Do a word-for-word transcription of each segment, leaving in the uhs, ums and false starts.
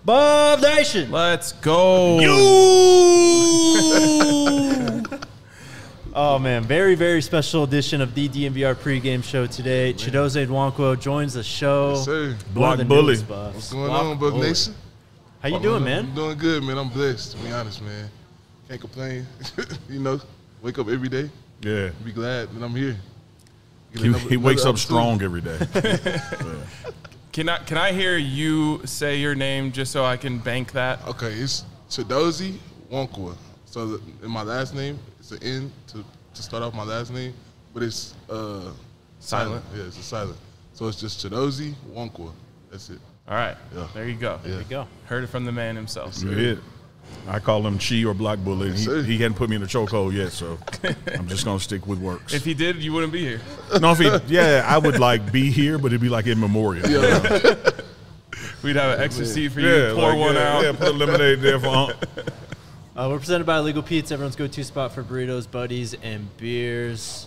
Buff Nation. Let's go. You. Oh, man. Very, very special edition of the D N V R pregame show today. Chidozie Nwankwo joins the show. Yes, sir. Block Bully. What's going on, Buff Nation? How you doing, man? I'm doing good, man. I'm blessed, to be honest, man. Can't complain. You know, wake up every day. Yeah. Be glad that I'm here. He, another, he wakes another up strong every day. Yeah. Can I can I hear you say your name just so I can bank that? Okay, it's Chidozie Nwankwo. So the, in my last name, it's an N to, to start off my last name, but it's uh, silent. Yeah, it's a silent. So it's just Chidozie Nwankwo. That's it. All right. Yeah. There you go. Yeah. There you go. Heard it from the man himself. You hit. I call him Chi or Block Bully. And Yes, he, he hadn't put me in the chokehold yet, so I'm just gonna stick with works. If he did, you wouldn't be here. No, if he, yeah, I would like be here, but it'd be like in memorial. Yeah. We'd have an extra seat for you. Yeah, pour like, one yeah, out. Yeah, put a lemonade there for Unc. Uh, we're presented by Legal Pete's, everyone's go-to spot for burritos, buddies, and beers.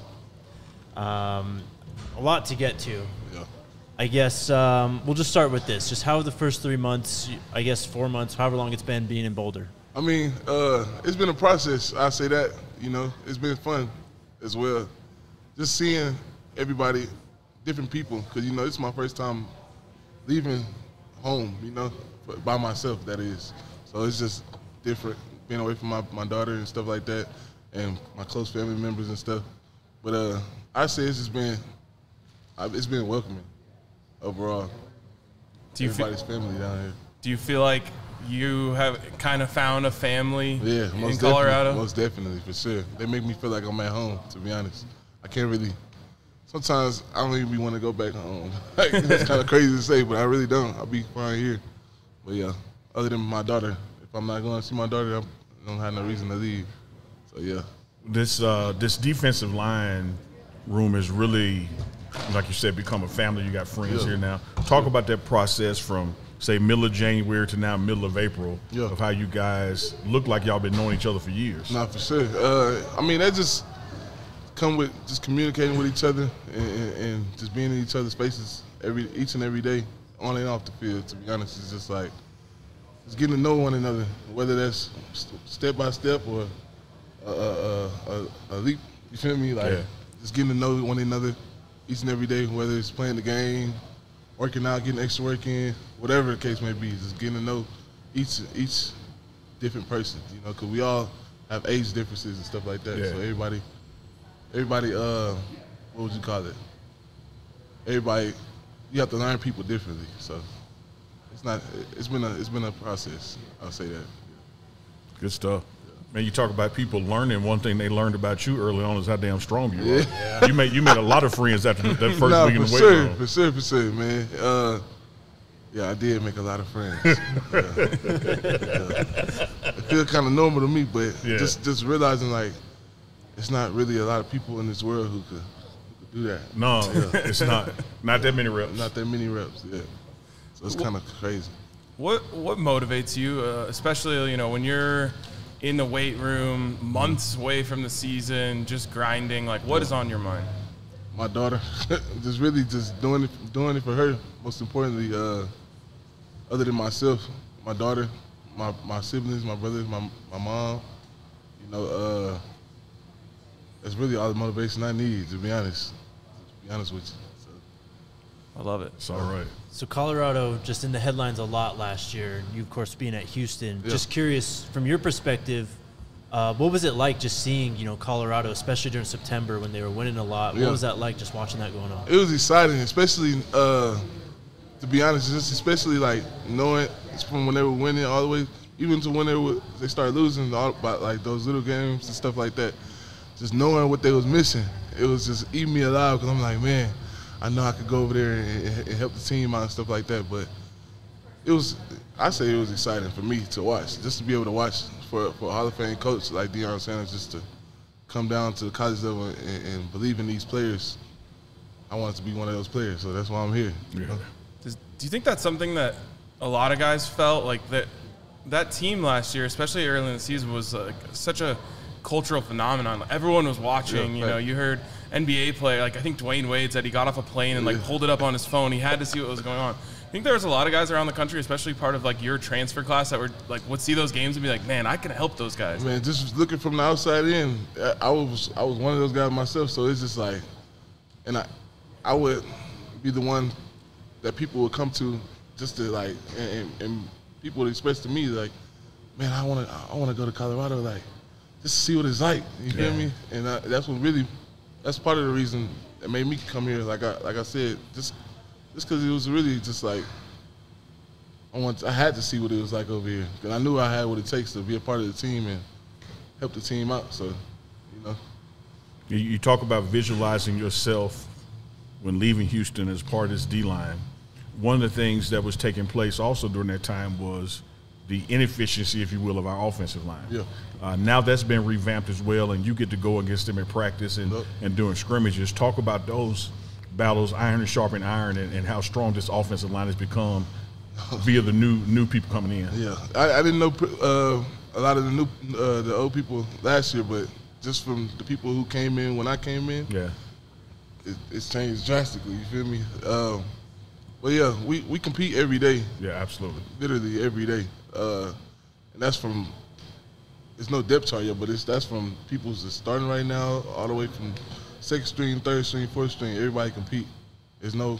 Um, a lot to get to. Yeah. I guess um, we'll just start with this. Just how the first three months, I guess four months, however long it's been being in Boulder. I mean, uh, it's been a process. I say that, you know, it's been fun as well. Just seeing everybody, different people, because, you know, it's my first time leaving home, you know, by myself, that is. So it's just different, being away from my, my daughter and stuff like that, and my close family members and stuff. But uh, I say it's just been, it's been welcoming overall. Do you Everybody's feel, family down here. Do you feel like you have kind of found a family Yeah, in most Colorado? Definitely, most definitely, for sure. They make me feel like I'm at home, to be honest. I can't really, sometimes I don't even want to go back home. Like, it's kind of crazy to say, but I really don't. I'll be fine here. But yeah, other than my daughter, if I'm not going to see my daughter, I don't have no reason to leave. So yeah. This uh, this defensive line room is really, like you said, become a family. You got friends Yeah. here now. Talk about that process from, say, middle of January to now middle of April, Yeah. of how you guys look like y'all been knowing each other for years. Not for sure. Uh, I mean, that just come with just communicating with each other and, and, and just being in each other's faces every each and every day, on and off the field. To be honest, it's just like just getting to know one another, whether that's st- step by step or a, a, a, a leap. You feel me? Like Yeah. just getting to know one another each and every day, whether it's playing the game, working out, getting extra work in, whatever the case may be. Just getting to know each each different person, you know, because we all have age differences and stuff like that. Yeah. So everybody, everybody, uh, what would you call it? Everybody, you have to learn people differently. So it's not. It's been a. It's been a process. I'll say that. Good stuff. Man, you talk about people learning. One thing they learned about you early on is how damn strong you are. Yeah. You made you made a lot of friends after that first Nah, week in for the weight sure, room. for sure, for sure, man. Uh, yeah, I did make a lot of friends. yeah. Yeah. It feels kind of normal to me, but Yeah. just just realizing like it's not really a lot of people in this world who could, who could do that. No, it's not. Not that many reps. Not that many reps. Yeah, so it's kind of crazy. What what motivates you, uh, especially you know when you're in the weight room, months away from the season, just grinding? Like, what is on your mind? My daughter, just really just doing it, doing it for her. Most importantly, uh, other than myself, my daughter, my my siblings, my brothers, my my mom. You know, uh, that's really all the motivation I need. To be honest, to be honest with you. So, I love it. It's all right. So Colorado just in the headlines a lot last year. You, of course, being at Houston. Yeah. Just curious, from your perspective, uh, what was it like just seeing, you know, Colorado, especially during September when they were winning a lot? What Yeah. was that like just watching that going on? It was exciting, especially uh, to be honest, just especially like knowing it's from when they were winning all the way, even to when they were they started losing, all about like those little games and stuff like that. Just knowing what they was missing, it was just eating me alive because I'm like, man, I know I could go over there and, and help the team out and stuff like that. But it was, I say it was exciting for me to watch, just to be able to watch for, for a Hall of Fame coach like Deion Sanders, just to come down to the college level and, and believe in these players. I wanted to be one of those players, so that's why I'm here. you Yeah. know? Does, do you think that's something that a lot of guys felt like that? That team last year, especially early in the season, was like such a cultural phenomenon. Everyone was watching. Yeah, you know, right. you heard N B A player, like I think Dwayne Wade said he got off a plane and like Yeah. pulled it up on his phone. He had to see what was going on. think there was a lot of guys around the country, especially part of like your transfer class, that were like would see those games and be like, man, I can help those guys. Man, just looking from the outside in, I- I was I was one of those guys myself. So it's just like, and I I would be the one that people would come to just to like, and, and, and people would express to me like, man, I want to I want to go to Colorado, like just to see what it's like. You feel Yeah. me? And I, that's what really, that's part of the reason that made me come here. Like I like I said, just just because it was really just like. I want. I had to see what it was like over here, because I knew I had what it takes to be a part of the team and help the team out. So, you know, You, you talk about visualizing yourself when leaving Houston as part of this D-line. One of the things that was taking place also during that time was the inefficiency, if you will, of our offensive line. Yeah. Uh, now that's been revamped as well, and you get to go against them in practice and, Yep. and doing scrimmages. Talk about those battles, iron and sharpen iron, and, and how strong this offensive line has become via the new new people coming in. yeah, I, I didn't know uh, a lot of the new, uh, the old people last year, but just from the people who came in when I came in, Yeah. it, it's changed drastically. You feel me? Um, but yeah, we, we compete every day, Yeah, absolutely. literally every day, uh, and that's from. It's no depth chart yet, but it's that's from people that's starting right now all the way from second string, third string, fourth string. Everybody compete. There's no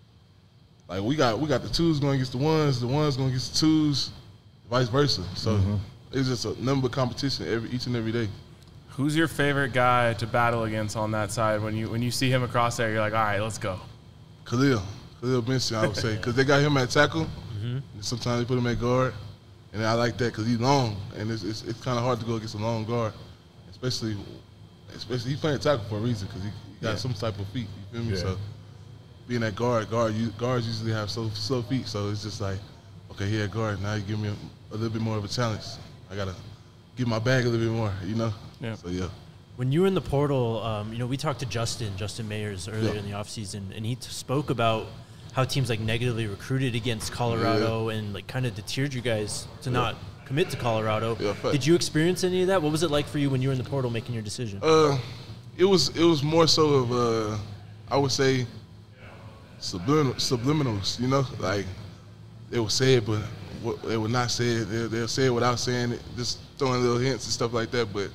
like we got we got the twos going against the ones, the ones going against the twos, vice versa. So it's just a number of competition every each and every day. Who's your favorite guy to battle against on that side? When you when you see him across there, you're like, all right, let's go. Khalil, Khalil Benson, I would say, because they got him at tackle. And sometimes they put him at guard, and I like that because he's long, and it's it's, it's kind of hard to go against a long guard, especially especially he's playing tackle for a reason because he, he got Yeah. some type of feet. You feel me? Yeah. So being at guard, guard you, guards usually have slow slow feet, so it's just like, okay, here at guard, now you give me a, a little bit more of a challenge. I gotta give my bag a little bit more, you know? Yeah. So yeah. When you were in the portal, um, you know, we talked to Justin, Justin Mayers earlier Yeah. in the offseason, and he t- spoke about how teams like negatively recruited against Colorado and like kind of deterred you guys to Yeah. not commit to Colorado. Yeah, fact. Did you experience any of that? What was it like for you when you were in the portal making your decision? Uh, it was it was more so of uh, I would say subliminal, subliminals. You know, like they would say it, but what, they would not say it. They, they'll say it without saying it, just throwing little hints and stuff like that. But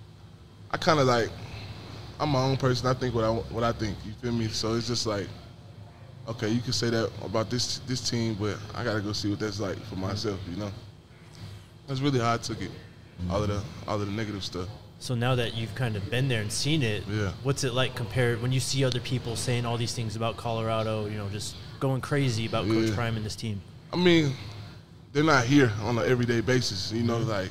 I kind of like I'm my own person. I think what I what I think. You feel me? So it's just like, okay, you can say that about this this team, but I gotta go see what that's like for myself. You know, that's really how I took it. All of the all of the negative stuff. So now that you've kind of been there and seen it, Yeah. what's it like compared when you see other people saying all these things about Colorado, you know, just going crazy about Coach Yeah. Prime and this team? I mean, they're not here on an everyday basis. You know, like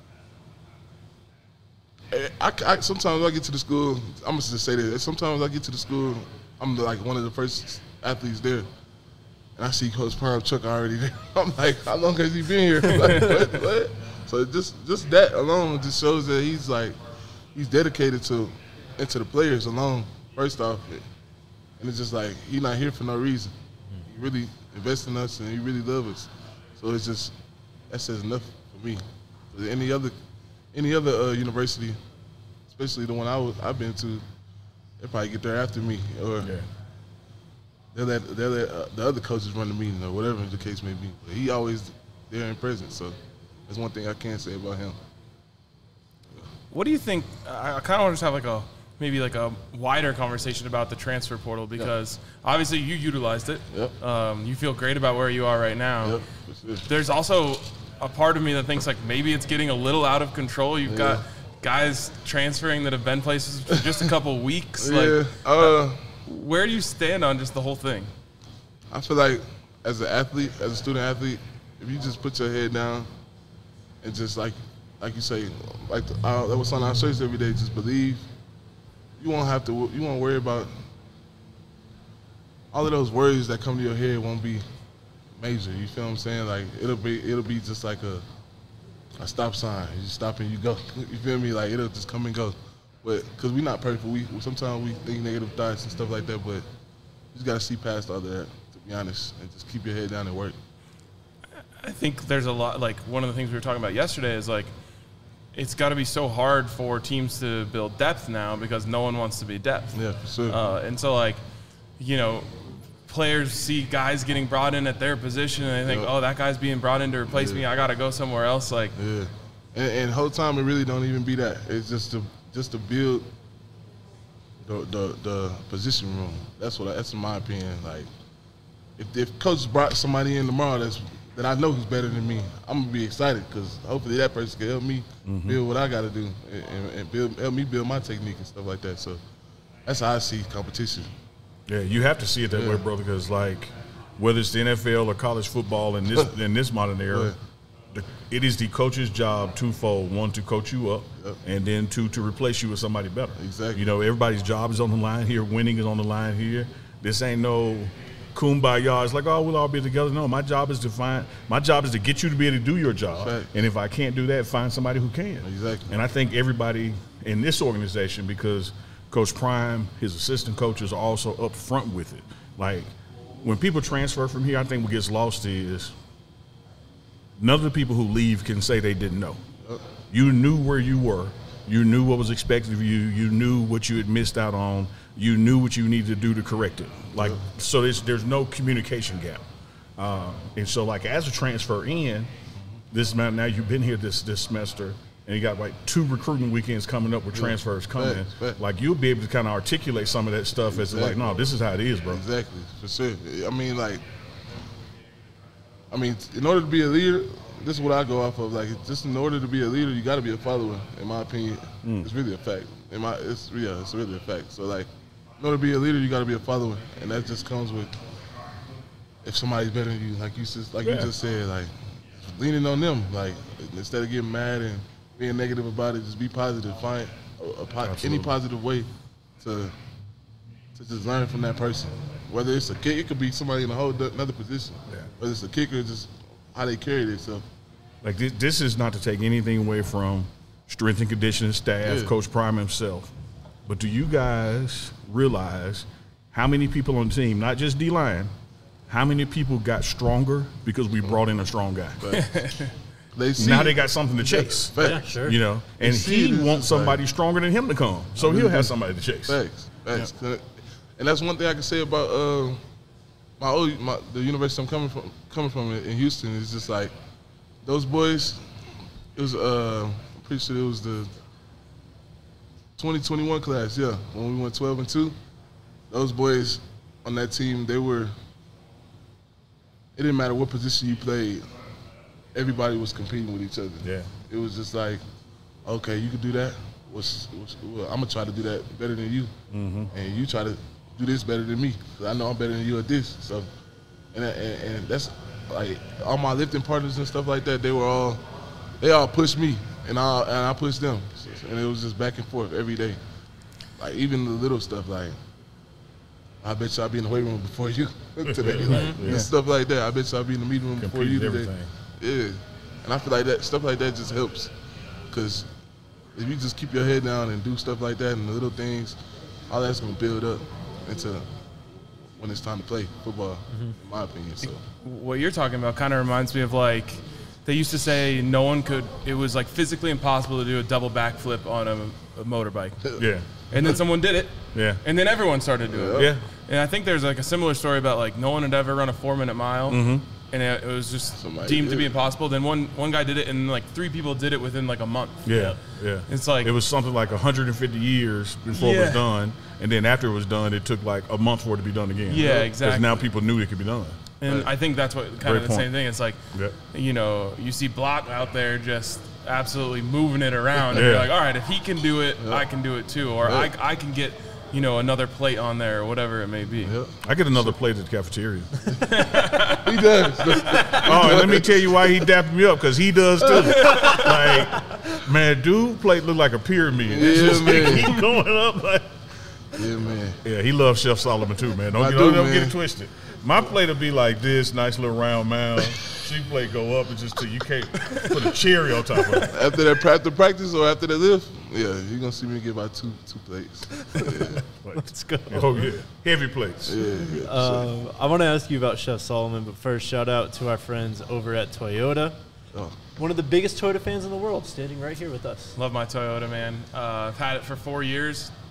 I, I, I- sometimes I get to the school. I'm gonna just say this. Sometimes I get to the school. I'm the, like one of the first athletes there, and I see Coach Prime Chuck already there. I'm like, how long has he been here? Like, what, what? So just just that alone just shows that he's like he's dedicated to into the players alone. First off, and it's just like he's not here for no reason. He really invests in us and he really loves us. So it's just that says enough for me. But any other any other uh, university, especially the one I was, I've been to, they probably get there after me, or Yeah. they'll let, they'll let uh, the other coaches run the meeting or whatever the case may be. But he always there and present. So that's one thing I can say about him. What do you think? I, I kind of want to just have like a maybe like a wider conversation about the transfer portal because obviously you utilized it. Yep. Um, you feel great about where you are right now. Yep, for sure. There's also a part of me that thinks like maybe it's getting a little out of control. You've got Yeah. guys transferring that have been places for just a couple weeks. Yeah. Like, Uh, where do you stand on just the whole thing? I feel like as an athlete, as a student athlete, if you just put your head down and just like, like you say, like the, uh, that was on our shirts every day, just believe. You won't have to. You won't worry about all of those worries that come to your head. Won't be major. You feel what I'm saying? Like it'll be, it'll be just like a a stop sign. You just stop and you go. You feel me? Like it'll just come and go. But because we're not perfect, we sometimes we think negative thoughts and stuff like that. But you just gotta see past all of that, to be honest, and just keep your head down and work. I think there's a lot, like one of the things we were talking about yesterday is like, it's got to be so hard for teams to build depth now because no one wants to be depth. Yeah, for sure. Uh, and so like, you know, players see guys getting brought in at their position and they think, Yep. oh, that guy's being brought in to replace Yeah. me. I got to go somewhere else. Like, Yeah, and, and whole time it really don't even be that. It's just to just to build the the, the position room. That's what I, that's in my opinion. Like, if if coach brought somebody in tomorrow that's that I know who's better than me, I'm gonna be excited because hopefully that person can help me Mm-hmm. build what I got to do and, and, and build help me build my technique and stuff like that. So that's how I see competition. Yeah, you have to see it that Yeah. way, brother, because like whether it's the N F L or college football in this in this modern era, Right. the, it is the coach's job twofold: one, to coach you up, Yep. and then two, to replace you with somebody better. Exactly. You know, everybody's job is on the line here. Winning is on the line here. This ain't no kumbaya. It's like, oh, we'll all be together. No, my job is to find. My job is to get you to be able to do your job, Right. and if I can't do that, find somebody who can. Exactly. And I think everybody in this organization, because Coach Prime, his assistant coaches are also up front with it. Like, when people transfer from here, I think what gets lost is none of the people who leave can say they didn't know. You knew where you were. You knew what was expected of you. You knew what you had missed out on. You knew what you needed to do to correct it. Like, so there's, there's no communication gap. Uh, and so, like, as a transfer in, this amount, now you've been here this, this semester, and you got like two recruiting weekends coming up with transfers coming. Facts, facts. Like, you'll be able to kind of articulate some of that stuff as like, Exactly. no, this is how it is, bro. Exactly, for sure. I mean, like, I mean, in order to be a leader, this is what I go off of. Like, just in order to be a leader, you got to be a follower. In my opinion, it's really a fact. In my, it's yeah, it's really a fact. So, like, in order to be a leader, you got to be a follower, and that just comes with if somebody's better than you, like you just, like Yeah. you just said, like leaning on them. Like, instead of getting mad and being negative about it, just be positive. Find a, a po- any Absolutely. positive way to to just learn from that person. Whether it's a kick, it could be somebody in a whole do- another position. Yeah. Whether it's a kicker, just how they carry themselves. Like, this, this is not to take anything away from strength and conditioning staff, Yeah. Coach Prime himself. But do you guys realize how many people on the team, not just D-line, how many people got stronger because we brought in a strong guy? They see Now it. they got something to chase. Facts. Yeah, sure. You know, and see he it as wants just like- somebody stronger than him to come. So really he'll have do. somebody to chase. Facts, facts. And that's one thing I can say about uh, my old my, the university I'm coming from. Coming from in Houston is just like those boys. It was uh, I'm pretty sure it was the twenty twenty-one class. Yeah, when we went twelve and two, those boys on that team, they were. It didn't matter what position you played. Everybody was competing with each other. Yeah. It was just like, okay, you can do that. What's, what's, well, I'm gonna try to do that better than you, Mm-hmm. and you try to do this better than me. 'Cause I know I'm better than you at this. So, and, and and that's like all my lifting partners and stuff like that. They were all, they all pushed me, and I and I pushed them, so, and it was just back and forth every day. Like even the little stuff, like I bet you I'll be in the weight room before you today, like Yeah. and stuff like that. I bet you I'll be in the meeting room before you Compete today. everything. Yeah, and I feel like that stuff like that just helps, because if you just keep your head down and do stuff like that and the little things, all that's gonna build up into when it's time to play football, in my opinion. So what you're talking about kind of reminds me of like they used to say no one could. It was like physically impossible to do a double backflip on a, a motorbike, Yeah. and then someone did it, Yeah. and then everyone started doing it. Yeah. And I think there's like a similar story about like no one had ever run a four minute mile, Mm-hmm. and it, it was just Somebody deemed did to be it. impossible. Then one one guy did it, and like three people did it within like a month. Yeah, yeah. It's like- it was something like one hundred fifty years before it Yeah. was done, and then after it was done, it took like a month for it to be done again. Yeah, Because exactly. now people knew it could be done. And I think that's what kind Great of the point. same thing. It's like, Yep. you know, you see Block out there just absolutely moving it around, and Yeah. you're like, all right, if he can do it, I can do it too, or Yeah. I, I can get, you know, another plate on there, or whatever it may be. yeah, I get another plate at the cafeteria. he does. Oh, and let me tell you why he dapped me up, because he does too. Like, man, dude, plate look like a pyramid. It's Yeah, just man. keep going up. Like, yeah, man. yeah, he loves Chef Solomon too, man. Don't, I get, do, don't, don't get man. it twisted. My plate will be like this, nice little round mound. She plate go up and just till you can't put a cherry on top of it. After that, after practice or after the lift, yeah, you're gonna see me get about two two plates. Yeah, Let's go. Oh yeah, heavy plates. yeah, yeah. Um, I want to ask you about Chef Solomon, but first, shout out to our friends over at Toyota. Oh. One of the biggest Toyota fans in the world, standing right here with us. Love my Toyota, man. Uh, I've had it for four years.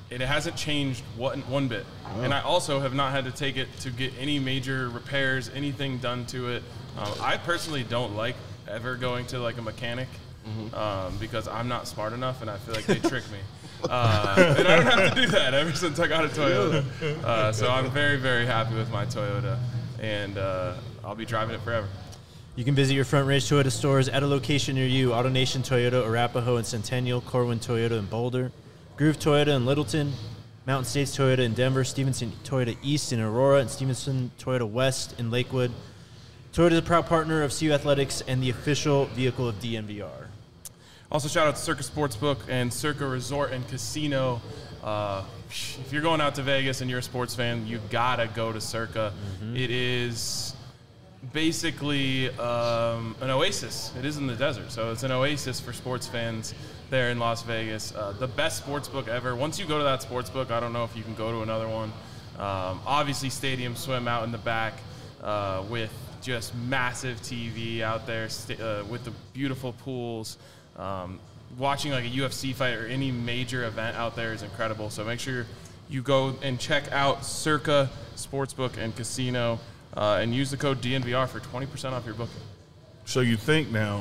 and it hasn't changed one, one bit. Oh. And I also have not had to take it to get any major repairs, anything done to it. Um, I personally don't like ever going to like a mechanic mm-hmm. um, because I'm not smart enough, and I feel like they trick me. Uh, and I don't have to do that ever since I got a Toyota. Uh, so I'm very, very happy with my Toyota, and uh, I'll be driving it forever. You can visit your Front Range Toyota stores at a location near you. AutoNation Toyota, Arapahoe and Centennial, Corwin Toyota in Boulder, Groove Toyota in Littleton, Mountain States Toyota in Denver, Stevenson Toyota East in Aurora, and Stevenson Toyota West in Lakewood. Toyota is a proud partner of C U Athletics and the official vehicle of D N V R. Also, shout out to Circa Sportsbook and Circa Resort and Casino. Uh, if you're going out to Vegas and you're a sports fan, you gotta go to Circa. Mm-hmm. It is basically um, an oasis. It is in the desert, so it's an oasis for sports fans there in Las Vegas. Uh, the best sportsbook ever. Once you go to that sportsbook, I don't know if you can go to another one. Um, obviously, Stadium Swim out in the back uh, with just massive T V out there st- uh, with the beautiful pools. Um, watching like a U F C fight or any major event out there is incredible. So make sure you go and check out Circa Sportsbook and Casino uh, and use the code D N V R for twenty percent off your booking. So you think now,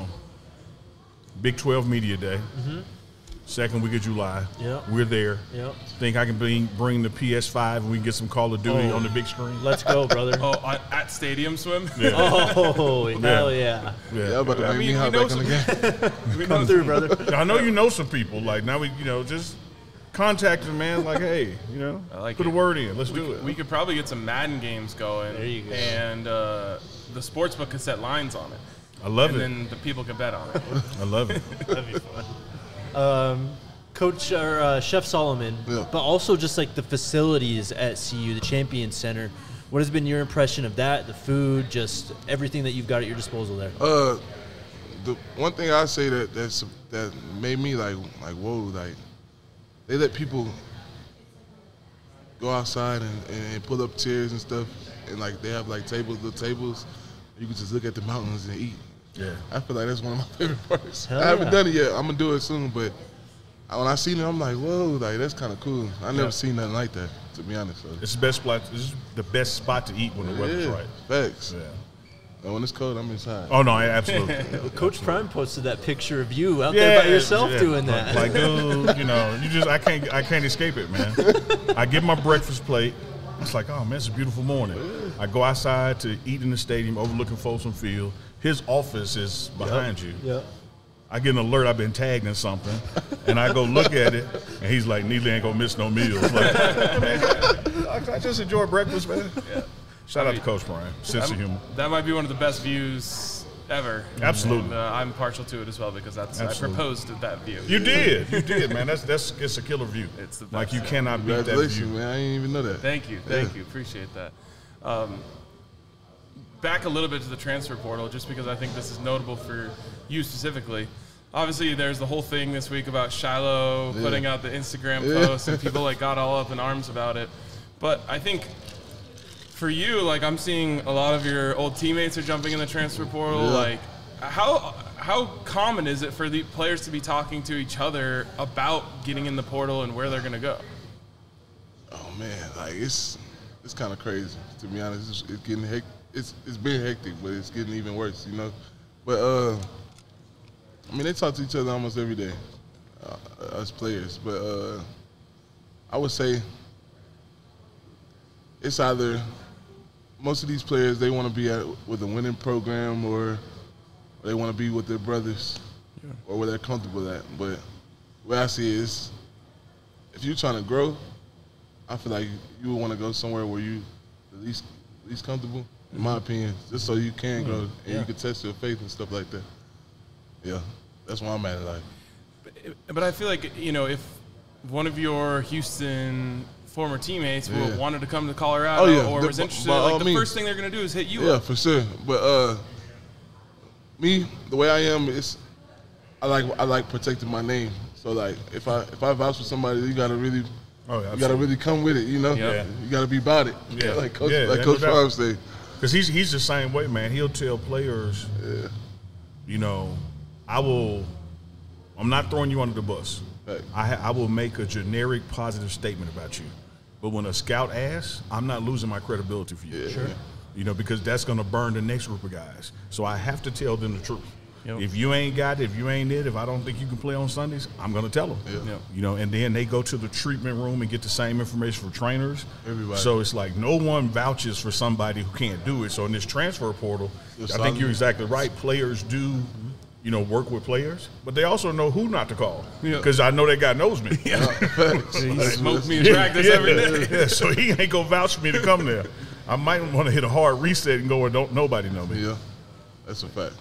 Big twelve Media Day, mm-hmm. second week of July, yep. we're there. Yep. Think I can bring, bring the P S five and we can get some Call of Duty oh. on the big screen? Let's go, brother. Oh, at Stadium Swim? Yeah. Oh, hell yeah. Yeah, yeah but I mean, me know some we Come through, brother. I know you know some people. Like, now we, you know, just contact them, man. Like, hey, you know, I like put it. a word in. Let's we, do it. We could probably get some Madden games going. There you go. And uh, the sportsbook could set lines on it. I love and it. And then the people can bet on it. I love it. That'd be fun. Um, Coach or uh, Chef Solomon, yeah. but also just like the facilities at C U, the Champion Center. What has been your impression of that? The food, just everything that you've got at your disposal there. Uh, the one thing I say that that's that made me like like whoa, like they let people go outside and, and pull up chairs and stuff, and like they have like tables, little tables. You can just look at the mountains and eat. Yeah, I feel like that's one of my favorite parts. Hell I haven't yeah. done it yet. I'm gonna do it soon, but when I seen it, I'm like, whoa, like that's kind of cool. I never yeah. seen nothing like that, to be honest. So. It's the best spot. This is the best spot to eat when the weather's yeah, right. Facts. Yeah. And when it's cold, I'm inside. Oh no, absolutely. Well, Coach Prime posted that picture of you out yeah, there by yourself yeah. doing that. Like, dude, you know, you just I can't I can't escape it, man. I get my breakfast plate. It's like, oh man, it's a beautiful morning. I go outside to eat in the stadium overlooking Folsom Field. His office is behind yep. you. Yep. I get an alert I've been tagged in something, and I go look at it, and he's like, Neely ain't gonna miss no meals. Like, man, I just enjoy breakfast, man. Yeah. Shout I out mean, to Coach Brian. Sense that, of humor. That might be one of the best views ever. Absolutely. And, uh, I'm partial to it as well because that's Absolutely. I proposed at that view. You did. You did, man. That's that's it's a killer view. It's the best. Like you cannot beat that Congratulations, view. man. I didn't even know that. Thank you. Thank Yeah. you. Appreciate that. Um, back a little bit to the transfer portal, just because I think this is notable for you specifically. Obviously, there's the whole thing this week about Shiloh Yeah. putting out the Instagram Yeah. post, and people like got all up in arms about it. But I think for you, like I'm seeing a lot of your old teammates are jumping in the transfer portal. Yeah. Like, how how common is it for the players to be talking to each other about getting in the portal and where they're going to go? Oh man, like it's it's kind of crazy, to be honest. It's, it's getting hec- it's it's been hectic, but it's getting even worse, you know. But uh, I mean, they talk to each other almost every day, uh, us players. But uh, I would say it's either most of these players, they want to be at with a winning program, or they want to be with their brothers, yeah. or where they're comfortable at. But the way I see it is, if you're trying to grow, I feel like you would want to go somewhere where you the least least comfortable, in my opinion, just so you can grow and yeah. you can test your faith and stuff like that. Yeah, that's where I'm at in life. But, but I feel like, you know, if one of your Houston former teammates Yeah. wanted to come to Colorado Oh, yeah. or The- was interested, by all like the means. first thing they're going to do is hit you Yeah, up. for sure. But uh, me, the way I am is, I like I like protecting my name. So like, if I if I vouch for somebody, you gotta really, Oh, yeah, you gotta really come with it. You know, Yeah. you gotta be about it. Yeah. like Coach, Yeah, like yeah, Coach no doubt. Prime say. Because he's he's the same way, man. He'll tell players, Yeah. you know, I will. I'm not throwing you under the bus. Right. I, I will make a generic positive statement about you. But when a scout asks, I'm not losing my credibility for you. Yeah, sure. You know, because that's going to burn the next group of guys. So I have to tell them the truth. Yep. If you ain't got it, if you ain't it, if I don't think you can play on Sundays, I'm going to tell them. Yeah. Yep. You know, and then they go to the treatment room and get the same information from trainers. Everybody. So it's like no one vouches for somebody who can't do it. So in this transfer portal, It's I think solid. you're exactly right. Players do, you know, work with players, but they also know who not to call. Yeah. Because I know that guy knows me. He smoked me in practice every day. Yeah, so he ain't going to vouch for me to come there. I might want to hit a hard reset and go where don't nobody know me. Yeah, that's a fact.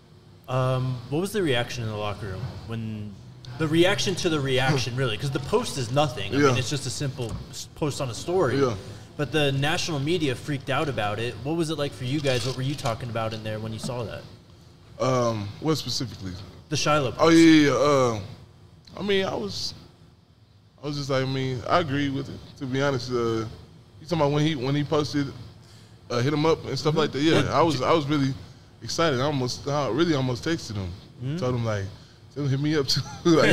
Um, what was the reaction in the locker room when the reaction to the reaction, really? Because the post is nothing. I Yeah. mean, it's just a simple s- post on a story. Yeah. But the national media freaked out about it. What was it like for you guys? What were you talking about in there when you saw that? Um, what specifically? The Shiloh post. Oh yeah, yeah. Uh, I mean, I was, I was just like, I mean, I agree with it. To be honest, uh, you talking about when he when he posted, uh, hit him up and stuff like that. Yeah, I was I was really excited. I almost, I really almost texted him, Mm-hmm. told him like, tell him hit me up too. Like,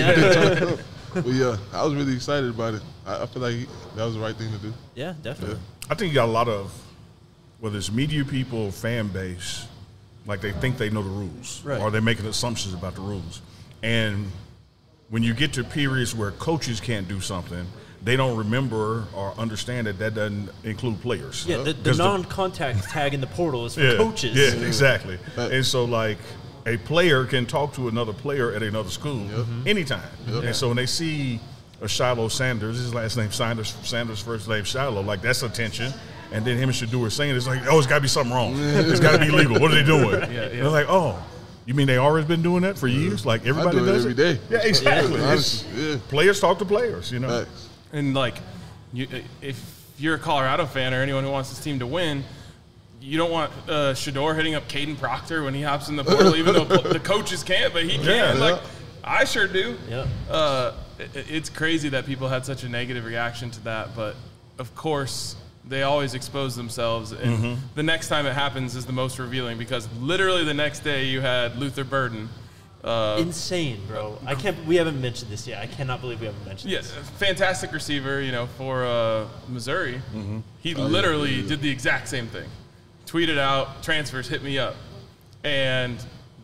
but yeah, I was really excited about it. I, I feel like he, that was the right thing to do. Yeah, definitely. I think you got a lot of, whether it's media people or fan base, like they think they know the rules, Right. or they're making assumptions about the rules. And when you get to periods where coaches can't do something, they don't remember or understand that that doesn't include players. Yeah, the, the 'Cause non-contact tag in the portal is for yeah, coaches. Yeah, exactly. Right. And so, like, a player can talk to another player at another school anytime. And so when they see a Shiloh Sanders, his last name Sanders, Sanders first name Shiloh, like that's attention. And then him and Shador saying it's like, oh, it's got to be something wrong. It's got to be illegal. What are they doing? Yeah, yeah. They're like, oh, you mean they always been doing that for years? Like everybody I do it does every day. Yeah, exactly. Yeah, It's- honestly, yeah. Players talk to players, you know. Facts. And like, you, if you're a Colorado fan or anyone who wants this team to win, you don't want uh, Shador hitting up Caden Proctor when he hops in the portal, even though the coaches can't, but he can. Yeah. Like, I sure do. Yep. Uh, it, it's crazy that people had such a negative reaction to that, but of course they always expose themselves, and Mm-hmm. the next time it happens is the most revealing because literally the next day you had Luther Burden. Uh, Insane, bro. I can't. We haven't mentioned this yet. I cannot believe we haven't mentioned Yes, this. fantastic receiver, you know, for uh, Missouri. Mm-hmm. He Oh, literally did the exact same thing. Tweeted out, transfers, hit me up. And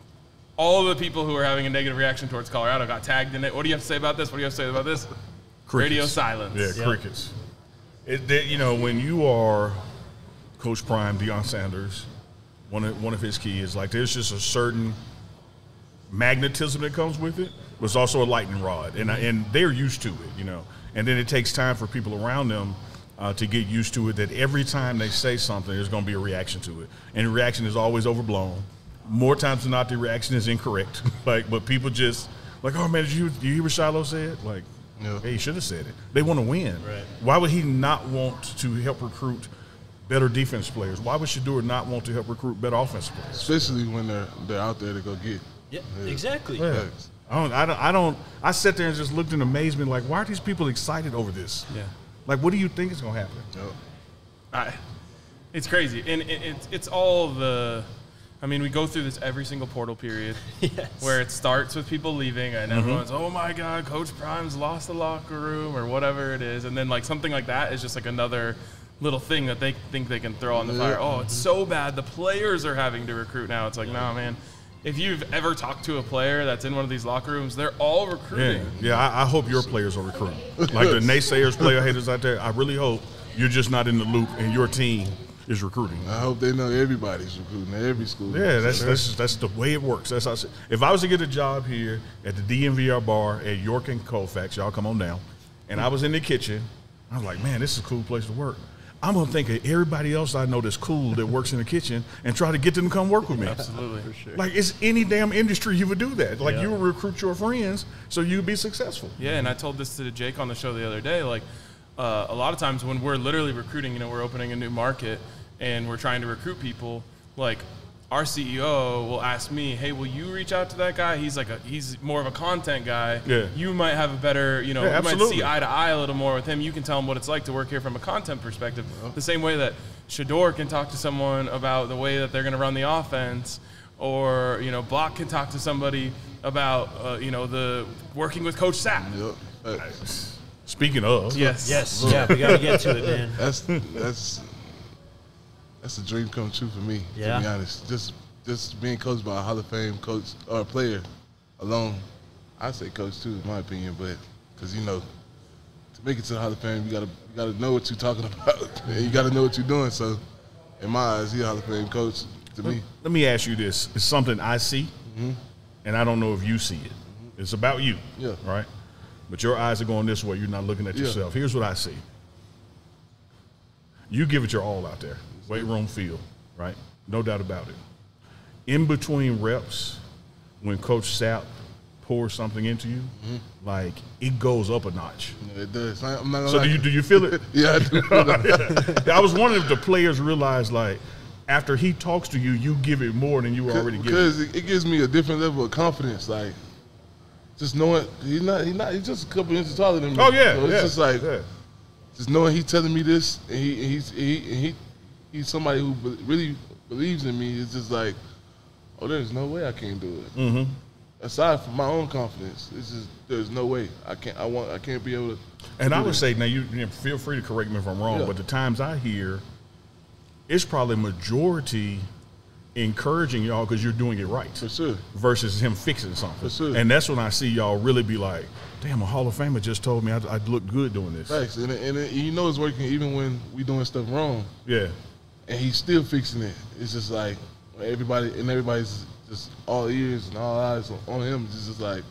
all of the people who were having a negative reaction towards Colorado got tagged in it. What do you have to say about this? What do you have to say about this? Crickets. Radio silence. Yeah, Yeah. crickets. It, they, you know, when you are Coach Prime, Deion Sanders, one of, one of his keys, like there's just a certain magnetism that comes with it, but it's also a lightning rod, and I, and they're used to it, you know. And then it takes time for people around them uh, to get used to it. That every time they say something, there's going to be a reaction to it, and the reaction is always overblown. More times than not, the reaction is incorrect. like, but people just like, oh man, did you did you hear what Shiloh said? Like, Yeah. hey, he should have said it. They want to win. Right. Why would he not want to help recruit better defense players? Why would Shador not want to help recruit better offensive players? Especially when they're they're out there to go get. Yeah, exactly. Yeah. Facts. I don't, I don't, I don't, I sat there and just looked in amazement, like, why are these people excited over this? Yeah. Like, what do you think is going to happen? Yep. I, it's crazy. And it, it's, it's all the, I mean, we go through this every single portal period Yes. where it starts with people leaving and everyone's, oh my God, Coach Prime's lost the locker room or whatever it is. And then like something like that is just like another little thing that they think they can throw on the fire. Oh, it's so bad. The players are having to recruit now. It's like, nah, man. If you've ever talked to a player that's in one of these locker rooms, they're all Yeah, recruiting. yeah. I, I hope your players are recruiting. Like the naysayers, player haters out there. I really hope you're just not in the loop and your team is recruiting. I hope they know everybody's recruiting at every school. Yeah, that's that's that's the way it works. That's how I say. If I was to get a job here at the D M V R bar at York and Colfax, y'all come on down, and I was in the kitchen, I was like, man, this is a cool place to work. I'm gonna think of everybody else I know that's cool that works in the kitchen and try to get them to come work with me. Absolutely. For sure. Like it's any damn industry you would do that. Like Yeah. you would recruit your friends so you would be successful. Yeah, and I told this to Jake on the show the other day. Like, uh, a lot of times when we're literally recruiting, you know, we're opening a new market and we're trying to recruit people. Like, our C E O will ask me, "Hey, will you reach out to that guy? He's like a he's more of a content guy. Yeah. You might have a better, you know, Yeah, you might absolutely. see eye to eye a little more with him. You can tell him what it's like to work here from a content perspective. The same way that Shador can talk to someone about the way that they're going to run the offense, or you know, Block can talk to somebody about uh, you know the working with Coach Sapp. Yep. Uh, Speaking of, Yes. Yes. Yeah, we got to get to it, man. That's that's that's a dream come true for me. Yeah. To be honest, just just being coached by a Hall of Fame coach or a player alone, I say coach too, in my opinion. But because you know, to make it to the Hall of Fame, you gotta you gotta know what you're talking about, and you gotta know what you're doing. So, in my eyes, he's a Hall of Fame coach to me. let me ask you this: it's something I see, Mm-hmm. and I don't know if you see it. It's about you, Yeah. right? But your eyes are going this way. You're not looking at Yeah. yourself. Here's what I see. You give it your all out there, weight room, field, right? No doubt about it. In between reps, when Coach Sapp pours something into you, Mm-hmm. like it goes up a notch. It does. I- I'm not gonna So lie. do you do you feel it? Yeah, I do. I was wondering if the players realize, like, after he talks to you, you give it more than you were already giving. Because it, it gives me a different level of confidence. Like, just knowing he's not, he's not, he's just a couple inches taller than me. Oh yeah, So it's yeah, just like, yeah. just knowing he's telling me this, and he, and he's, he, and he, he's somebody who be- really believes in me. It's just like, oh, there's no way I can't do it. Mm-hmm. Aside from my own confidence, it's just there's no way I can't. I want. I can't be able to. And do I would this. say, now you, you know, feel free to correct me if I'm wrong, Yeah. but the times I hear, it's probably majority encouraging y'all because you're doing it right for sure. versus him fixing something. For sure. And that's when I see y'all really be like, damn, a Hall of Famer just told me I, I look good doing this. Thanks, and, and, and you know it's working even when we doing stuff wrong. Yeah. And he's still fixing it. It's just like everybody and everybody's just all ears and all eyes on him. It's just like,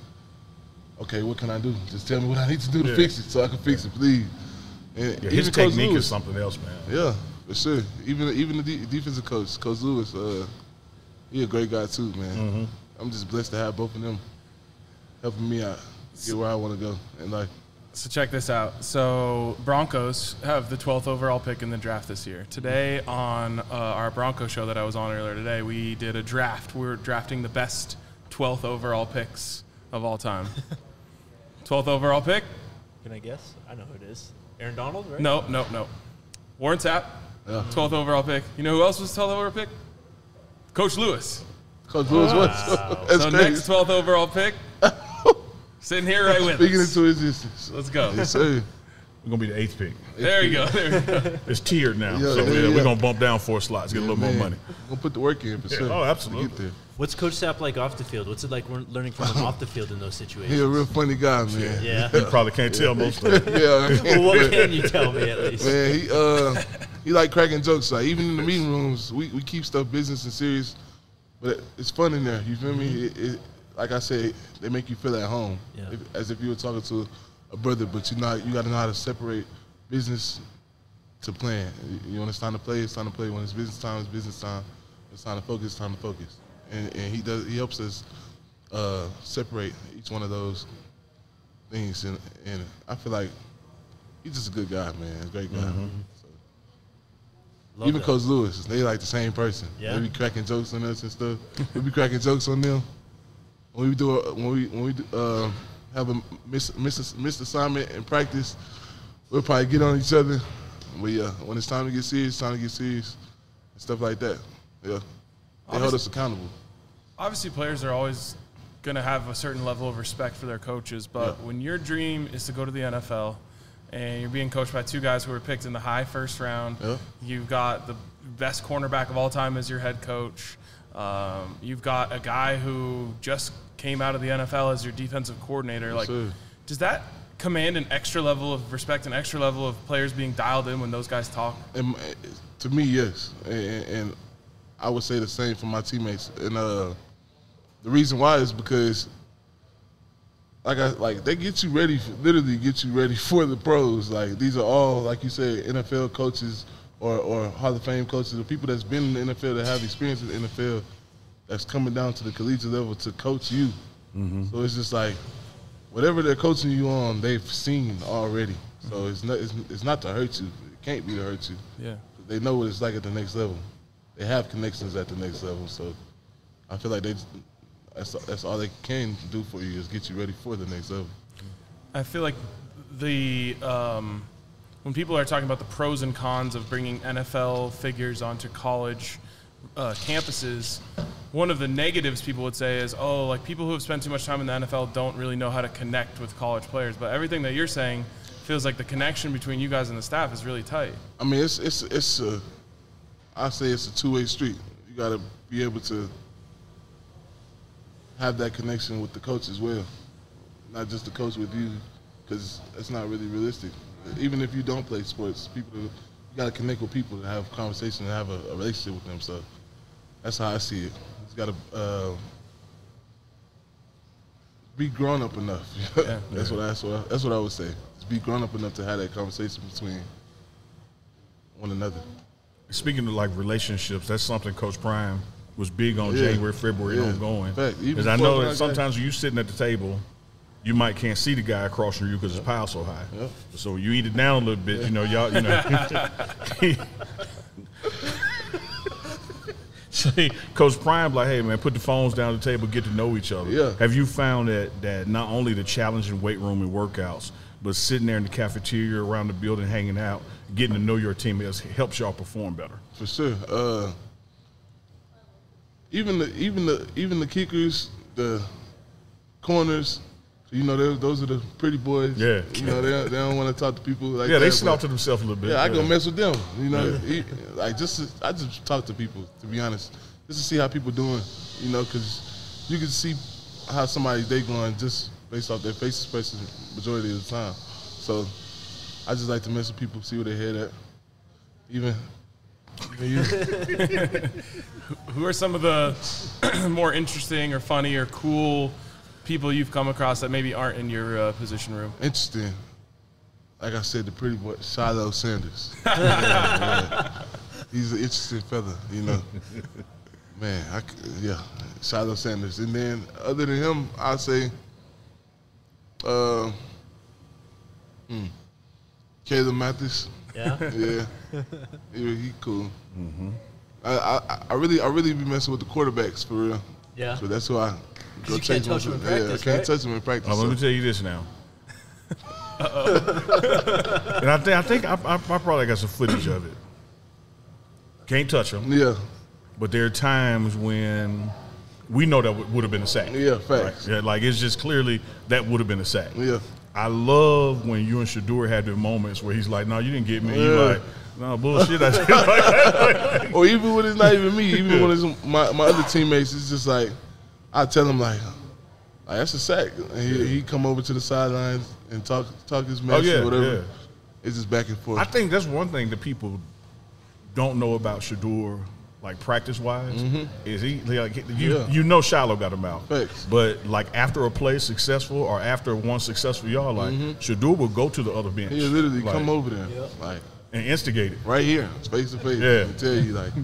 okay, what can I do? Just tell me what I need to do to Yeah. fix it so I can fix it, please. And Yeah, his even Coach technique Lewis, is something else, man. yeah, for sure. Even even the de- defensive coach, Coach Lewis, uh, he a great guy too, man. Mm-hmm. I'm just blessed to have both of them helping me out get where I want to go in life. So check this out. So Broncos have the twelfth overall pick in the draft this year. Today on uh, our Bronco show that I was on earlier today, we did a draft. We were drafting the best twelfth overall picks of all time. twelfth overall pick? Can I guess? I know who it is. Aaron Donald, right? No, no, no. Warren Sapp, Yeah. twelfth overall pick. You know who else was twelfth overall pick? Coach Lewis. Coach Lewis was. That's So crazy. next twelfth overall pick, sitting here right with Speaking us. into existence. Let's go. Yes, sir. We're going to be the eighth pick. There you go. There you go. It's tiered now. Yeah, so yeah, yeah, yeah. we're going to bump down four slots, get a little Man, more money. We'll put the work in for sure. oh, to absolutely. get there. What's Coach Sapp like off the field? What's it like we're learning from him off the field in those situations? He a real funny guy, man. Yeah. You probably can't tell most of it. Yeah. Well, what can you tell me at least? Man, he uh he like cracking jokes. Like even in the meeting rooms, we, we keep stuff business and serious, but it, it's fun in there. You feel me? It, it, like I said, they make you feel at home, Yeah. if, as if you were talking to a brother. But you know, you got to know how to separate business to playing. You when it's time to play, it's time to play. When it's business time, it's business time. It's time to focus, it's time to focus. And, and he does. He helps us uh, separate each one of those things. And, and I feel like he's just a good guy, man. A great guy. So, Love even that. Coach Lewis, they like the same person. Yeah? They be cracking jokes on us and stuff. we be cracking jokes on them. When we do a, when we when we do, uh, have a miss, miss, missed assignment in practice, we'll probably get on each other. But yeah, when it's time to get serious, it's time to get serious and stuff like that. Yeah, they hold us accountable. Obviously, players are always going to have a certain level of respect for their coaches, but Yeah. when your dream is to go to the N F L and you're being coached by two guys who were picked in the high first round, Yeah. you've got the best cornerback of all time as your head coach. Um, you've got a guy who just came out of the N F L as your defensive coordinator. Like, sir. does that command an extra level of respect, an extra level of players being dialed in when those guys talk? And uh, to me, yes, and, and I would say the same for my teammates. And uh, the reason why is because, like I like, they get you ready, for, literally get you ready for the pros. Like these are all, like you said, N F L coaches or or Hall of Fame coaches, or people that's been in the N F L that have experience in the N F L, that's coming down to the collegiate level to coach you. So it's just like, whatever they're coaching you on, they've seen already. So it's not it's, it's not to hurt you. It can't be to hurt you. Yeah. They know what it's like at the next level. They have connections at the next level. So I feel like they that's that's all they can do for you is get you ready for the next level. I feel like the um, when people are talking about the pros and cons of bringing N F L figures onto college uh, campuses, one of the negatives people would say is, oh, like people who have spent too much time in the N F L don't really know how to connect with college players. But everything that you're saying feels like the connection between you guys and the staff is really tight. I mean, it's it's it's a, I say it's a two-way street. You got to be able to have that connection with the coach as well, not just the coach with you, because it's not really realistic. Even if you don't play sports, people you got to connect with people to have conversation and have a, a relationship with them. So that's how I see it. You got to uh, be grown up enough. Yeah. that's what I, that's what I, that's what I would say. Just be grown up enough to have that conversation between one another. Speaking of like relationships, that's something Coach Prime was big on Yeah. January, February, Yeah. ongoing. Fact. Even Because I before know when that I sometimes when you sitting at the table, you might can't see the guy across from you because his pile's so high. Yep. So you eat it down a little bit, you know, y'all, you know. See, Coach Prime, like, hey man, put the phones down the table, get to know each other. Yeah. Have you found that that not only the challenging weight room and workouts, but sitting there in the cafeteria around the building, hanging out, getting to know your team has helps y'all perform better? For sure. Uh, even the even the even the kickers, the corners, you know, those those are the pretty boys. Yeah. You know, they don't, they don't want to talk to people like Yeah, that. they but- slaughter themselves a little bit. Yeah, I go mess with them. You know, He- like just to, I just talk to people, to be honest, just to see how people doing. You know, because you can see how somebody's day going just based off their face expression majority of the time. So I just like to mess with people, see where they head at. Even, even you. Who are some of the more interesting or funny or cool people you've come across that maybe aren't in your uh, position room? Interesting. Like I said, the pretty boy, Shiloh Sanders. Yeah, yeah. He's an interesting fella, you know. Man, I, c- yeah, Shiloh Sanders. And then other than him, I'd say uh, hmm, Caleb Mathis. Yeah. Yeah, he, he cool. I, I I really I really be messing with the quarterbacks for real. Yeah. So that's who I go you can't check touch on. them in Yeah, I practice, can't right? touch them in practice. Oh, let me so- tell you this now. And I think I think I, I, I probably got some footage of it. Can't touch them, Yeah, but there are times when we know that would have been a sack. yeah, facts. Yeah, like it's just clearly that would have been a sack. Yeah. I love when you and Shador had the moments where he's like, "No, you didn't get me." Yeah. You like, "No bullshit." I did. Or even when it's not even me, even when it's my, my other teammates, it's just like I tell him like, like that's a sack. And he he come over to the sidelines and talk talk his mess Oh, yeah, or whatever. yeah. It's just back and forth. I think that's one thing that people don't know about Shador, like practice wise, is he like you Mm-hmm. Yeah. you know Shiloh got him out. Facts. But like after a play is successful or after one successful y'all, like Shador will go to the other bench. He'll literally like, come over there, like and instigate it. right here, face to face, Yeah. and tell you like,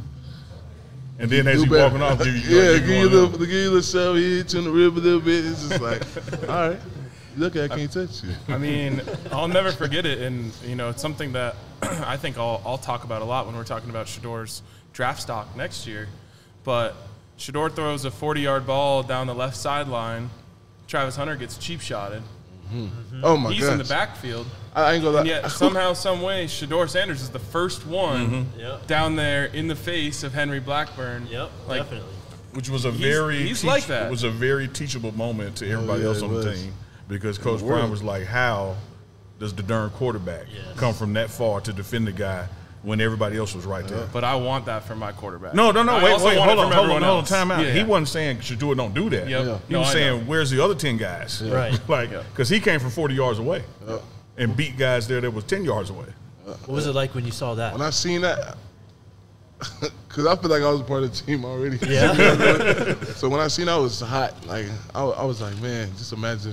And then as do he better. walking off, give you, yeah, give give you a one little, of give you a little shove, he hit you in the rib a little bit. It's just like, all right, look, I can't touch you. I mean, I'll never forget it, and you know, it's something that I think I'll, I'll talk about a lot when we're talking about Shador's draft stock next year. But Shador throws a forty-yard ball down the left sideline. Travis Hunter gets cheap shotted. Oh my He's god, in the backfield, I ain't gonna and lie. yet somehow, some way, Shador Sanders is the first one Yep. down there in the face of Henry Blackburn. Yep. Like, Definitely. which was a He's- very he's like that. It was a very teachable moment to everybody yeah, else it on the was. team because Coach world. Prime was like, "How does the darn quarterback Yes. come from that far to defend the guy when everybody else was right there?" But I want that for my quarterback. No, no, no. I wait, also wait, want hold it on, from hold on, everyone hold on. else. Time out. Yeah, He yeah. wasn't saying Shador don't do that. Yep. Yeah. He No, was I saying, know. "Where's the other ten guys?" Right. like, Yeah. because he came from forty yards away Yeah. and beat guys there that was ten yards away. What was it like when you saw that? When I seen that, because I feel like I was a part of the team already. Yeah. So when I seen that, it was hot. Like I, I was like, man, just imagine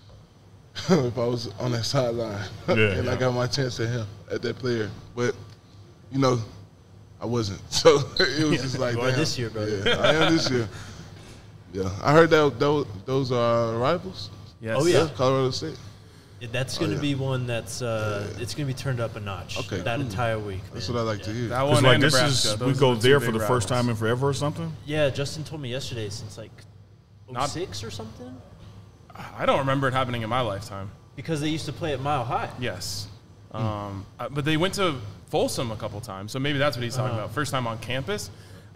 if I was on that sideline Yeah. and I got my chance at him, at that player. But you know, I wasn't. So it was just like, You are damn. this year, brother. Yeah, I am this year. Yeah, I heard that those, those are rivals. Yes. Oh, yeah. Colorado State. That's going to yeah. be one that's uh, it's going to be turned up a notch. Okay, That cool. entire week. That's man. what I like to hear. That It's one like and this Nebraska. is those we are go the two there big for the first rivals. time in forever or something. Yeah, Justin told me yesterday since like Not- oh six or something I don't remember it happening in my lifetime. because they used to play at Mile High. Yes. Um, uh, but they went to Folsom a couple times, so maybe that's what he's talking Uh-huh. about. First time on campus.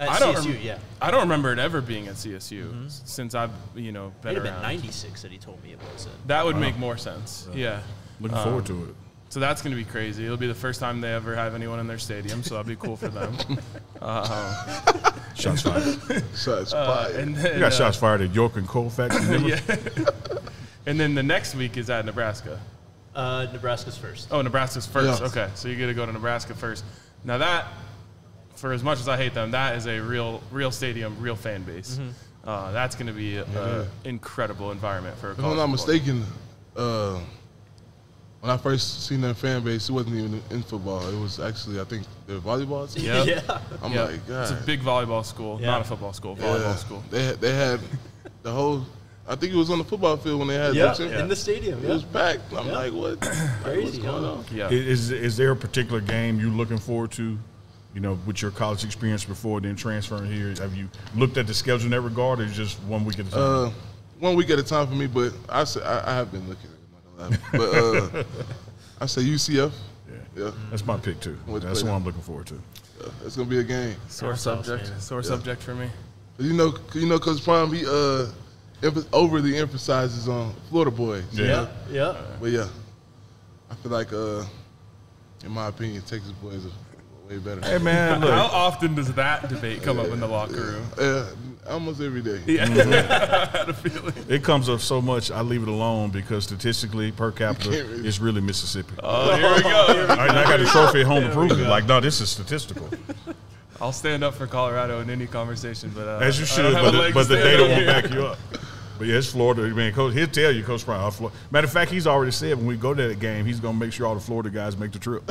At I don't C S U, rem- yeah. I don't remember it ever being at C S U Mm-hmm. since I've you know been It would have around. been ninety-six that he told me it was. In. That would make more sense. Yeah. Looking forward to it. So that's going to be crazy. It'll be the first time they ever have anyone in their stadium, so that'll be cool for them. uh, Shots fired. Shots uh, fired. and You then, got uh, shots fired at York and Colfax. yeah. And then the next week is at Nebraska. Uh, Nebraska's first. Oh, Nebraska's first. Yeah. Okay, so you get to go to Nebraska first. Now that, for as much as I hate them, that is a real, real stadium, real fan base. Mm-hmm. Uh, that's going to be an Yeah. incredible environment for a If college I'm not football game. mistaken, uh, when I first seen their fan base, it wasn't even in football. It was actually, I think, their volleyball team. Yep. Yeah. I'm Yeah. like, God. It's a big volleyball school, Yeah. not a football school, volleyball Yeah. school. They had, they had the whole. I think it was on the football field when they had Yeah, that team. in the stadium. It Yeah. was packed. I'm Yeah. like, what? Like, Crazy, what's going huh? on? Yeah. Is is there a particular game you looking forward to? You know, with your college experience before then transferring here, have you looked at the schedule in that regard, or just one week at a time? Uh, one week at a time for me, but I say, I, I have been looking at it. I'm not gonna lie. But uh, I say U C F. yeah. Yeah, That's my pick too. With That's the play. one I'm looking forward to. yeah, it's gonna be a game. Sore That's awesome, subject. man. Sore Yeah. subject for me. You know, you know, Coach Prime, he uh, emph- overly emphasizes on Florida boys. Yeah. Yeah. Yeah. But yeah, I feel like, uh, in my opinion, Texas boys are way better. Hey man, How look, often does that debate come up in the locker room? Yeah, almost every day. Yeah, I had a feeling. it comes up so much. I leave it alone because statistically, per capita, can't really- it's really Mississippi. Oh, here we go. I, I got the trophy at home to prove it. Like, no, this is statistical. I'll stand up for Colorado in any conversation, but uh, As you I should, don't have but a the, leg but to the stand data on won't here. back you up. But yeah, it's Florida. Man, Coach, he'll tell you, Coach Brown. Florida. Matter of fact, he's already said when we go to that game, he's going to make sure all the Florida guys make the trip.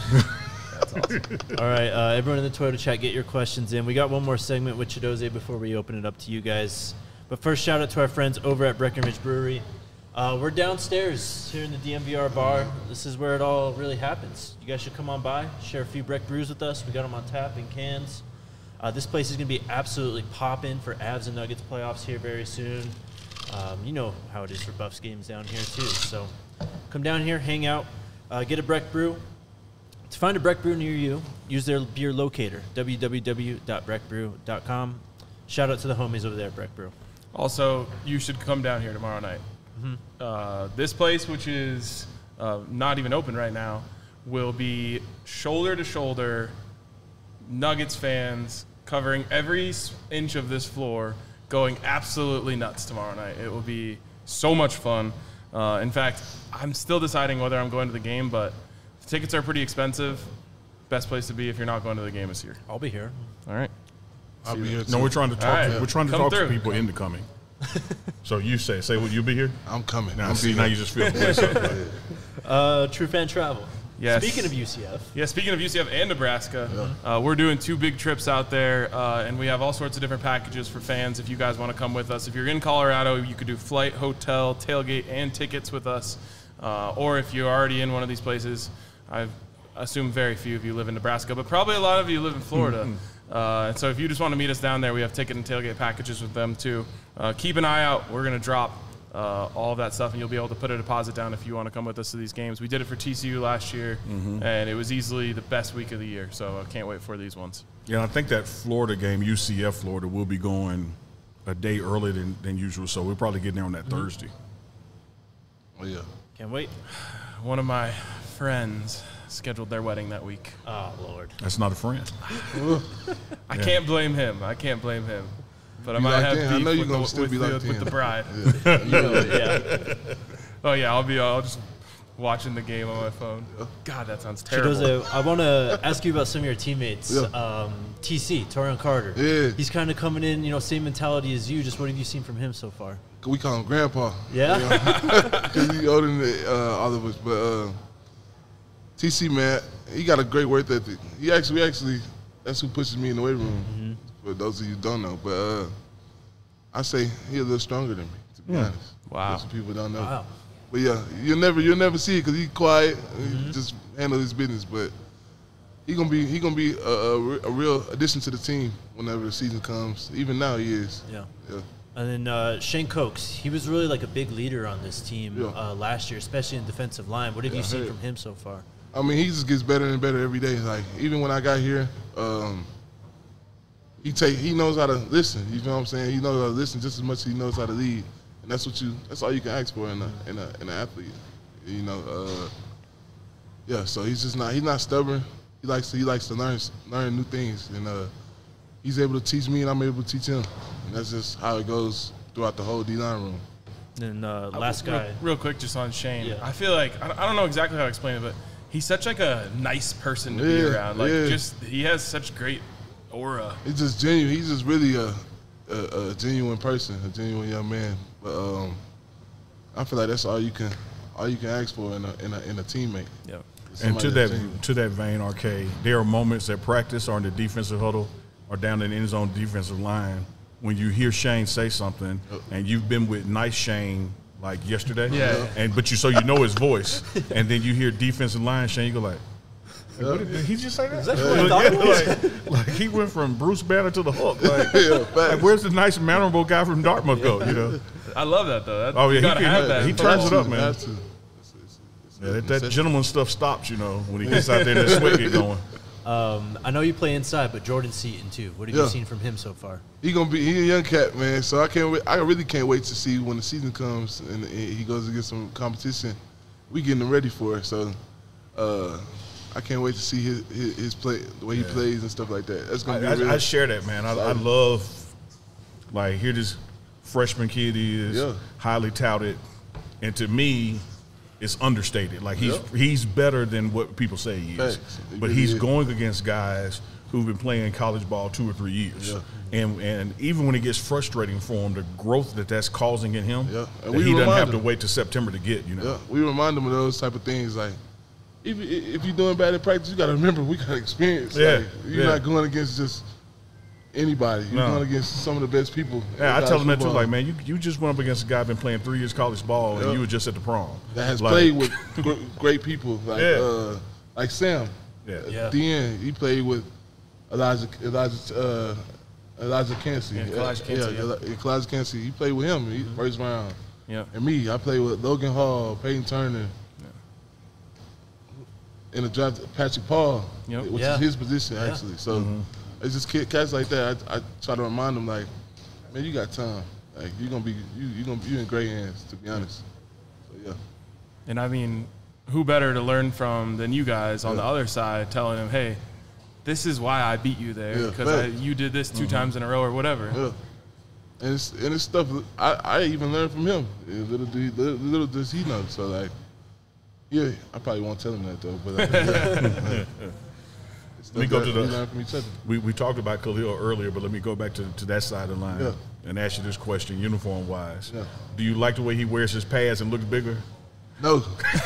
All right, uh, everyone in the Toyota chat, get your questions in. We got one more segment with Chidoze before we open it up to you guys. But first, shout out to our friends over at Breckenridge Brewery. Uh, we're downstairs here in the D M V R bar. This is where it all really happens. You guys should come on by, share a few Breck brews with us. We got them on tap in cans. Uh, this place is going to be absolutely popping for Avs and Nuggets playoffs here very soon. Um, you know how it is for Buffs games down here too. So come down here, hang out, uh, get a Breck brew. To find a Breck brew near you, use their beer locator, w w w dot breck brew dot com. Shout out to the homies over there at Breck Brew. Also, you should come down here tomorrow night. Uh, this place, which is uh, not even open right now, will be shoulder to shoulder Nuggets fans covering every s- inch of this floor, going absolutely nuts tomorrow night. It will be so much fun. Uh, in fact, I'm still deciding whether I'm going to the game, but tickets are pretty expensive. Best place to be if you're not going to the game is here. I'll be here. All right. I'll be here too. No, we're trying to talk. All right. to, we're trying to Come talk to through. people into coming. So you say, say, will you be here? I'm coming. Now, I'm see, being now you just feel the place up. Uh, True Fan Travel. Yes. Speaking of U C F, Yeah, speaking of U C F and Nebraska, uh, we're doing two big trips out there, uh, and we have all sorts of different packages for fans if you guys want to come with us. If you're in Colorado, you could do flight, hotel, tailgate, and tickets with us. Uh, or if you're already in one of these places, I assume very few of you live in Nebraska, but probably a lot of you live in Florida. Uh, and so if you just want to meet us down there, we have ticket and tailgate packages with them too. Uh, keep an eye out. We're going to drop uh, all of that stuff, and you'll be able to put a deposit down if you want to come with us to these games. We did it for T C U last year, and it was easily the best week of the year. So I can't wait for these ones. Yeah, I think that Florida game, U C F Florida, will be going a day earlier than, than usual. So we'll probably get there on that Thursday. Oh yeah. can't wait. One of my friends scheduled their wedding that week. Oh, Lord. That's not a friend. I can't blame him. I can't blame him. But I Be might locked have in. beef I know you're with, gonna the, still with, be the, locked with in. the bride. Yeah. Oh yeah, I'll be. I'll just watching the game on my phone. God, that sounds terrible. Chidoze, I want to ask you about some of your teammates. Yeah. Um, T C, Torian Carter. Yeah. He's kind of coming in, you know, same mentality as you. Just what have you seen from him so far? We call him Grandpa. Yeah? Because he's older than uh, all of us. But uh, T C, man, he got a great work ethic. He actually, we actually, that's who pushes me in the weight room. Mm-hmm. For those of you who don't know. But uh, I say he's a little stronger than me, to be honest. Wow. Most people don't know. Wow. But yeah, you'll never you'll never see it because he's quiet, Mm-hmm. he just handle his business. But he gonna be he gonna be a, a, re- a real addition to the team whenever the season comes. Even now he is. Yeah. Yeah. And then uh, Shane Cokes, he was really like a big leader on this team Yeah. uh, last year, especially in defensive line. What have Yeah, you I seen heard. from him so far? I mean, he just gets better and better every day. Like even when I got here, um, he take he knows how to listen. You know what I'm saying? He knows how to listen just as much as he knows how to lead, and that's what you that's all you can ask for in a in a in an athlete. You know, uh, yeah. So he's just not he's not stubborn. He likes to he likes to learn learn new things, and uh, he's able to teach me, and I'm able to teach him, and that's just how it goes throughout the whole D-line room. And uh, last real, guy. Real quick, just on Shane. Yeah. I feel like, I don't- I don't know exactly how to explain it, but he's such like a nice person to be Yeah, around. Like, yeah. just, he has such great aura. He's just genuine. He's just really a, a, a genuine person, a genuine young man. But um, I feel like that's all you can all you can ask for in a in a, in a teammate. Yeah. And Somebody to that's that genuine. to that vein, R K, there are moments at practice or in the defensive huddle or down in the end zone defensive line when you hear Shane say something, and you've been with nice Shane like yesterday, Yeah. and but you so you know his voice, and then you hear defensive line Shane, you go like, hey, what did, did he just say that? that what I thought it was? like, like he went from Bruce Banner to the Hook. Like, Yeah, facts. like where's the nice mannerable guy from Dartmouth go? You know? I love that, though. That, Oh, yeah, you he gotta can- have that. he for turns all- it up, man. Have to. It's- it's- it's Yeah, that, that necessity. gentleman stuff stops, you know, when he gets out there and the sweat get going. Um, I know you play inside, but Jordan Seaton too. What have you Yeah. seen from him so far? He gonna be he a young cat, man. So I can't wait. I really can't wait to see when the season comes and he goes against some competition. We getting him ready for it. So uh, I can't wait to see his his, his play, the way he Yeah. plays and stuff like that. That's gonna be I, real. I, I share that, man. I, I love, like, here this freshman kid is Yeah. highly touted, and to me, it's understated. Like he's Yeah. he's better than what people say he is, Facts. He but really he's is. going against guys who've been playing college ball two or three years, Yeah. and and even when it gets frustrating for him, the growth that that's causing in him, Yeah. And that we he doesn't remind have to him. wait to September to get. You know, Yeah, we remind them of those type of things. Like, if if you're doing bad in practice, you got to remember we got experience. Yeah, Like, you're yeah. not going against just anybody. You're No. going against some of the best people. Yeah, I in tell him college that too. football Like, man, you, you just went up against a guy been playing three years college ball, and Yeah. you were just at the prom. that has Like, played with gr- great people. Like, Yeah. uh, like Sam. Yeah. At Yeah. the end, he played with Elijah Elijah uh, Elijah Cansey. Yeah, Elijah Cansey, yeah, yeah. Eli- Elijah Cansey. He played with him. He, first round. Yeah. And me, I played with Logan Hall, Peyton Turner. In the draft, Patrick Paul, Yep. which Yeah. is his position Yeah. actually. So Mm-hmm. it's just kid, cats like that. I, I try to remind them, like, man, you got time. Like you're gonna be, you you gonna you in great hands. To be honest. So yeah. And I mean, who better to learn from than you guys on Yeah. the other side, telling him, "Hey, this is why I beat you there Yeah, because I, fact. you did this 2 times in a row or whatever." Yeah. And it's and it's stuff I, I even learned from him. Yeah, Little do little, little does he know. So like, yeah, I probably won't tell him that though. But uh, yeah. It's Let me stuff go that to the- we learn from each other. We, we talked about Khalil earlier, but let me go back to, to that side of the line Yeah. and ask you this question, uniform wise. Yeah. Do you like the way he wears his pads and looks bigger? No.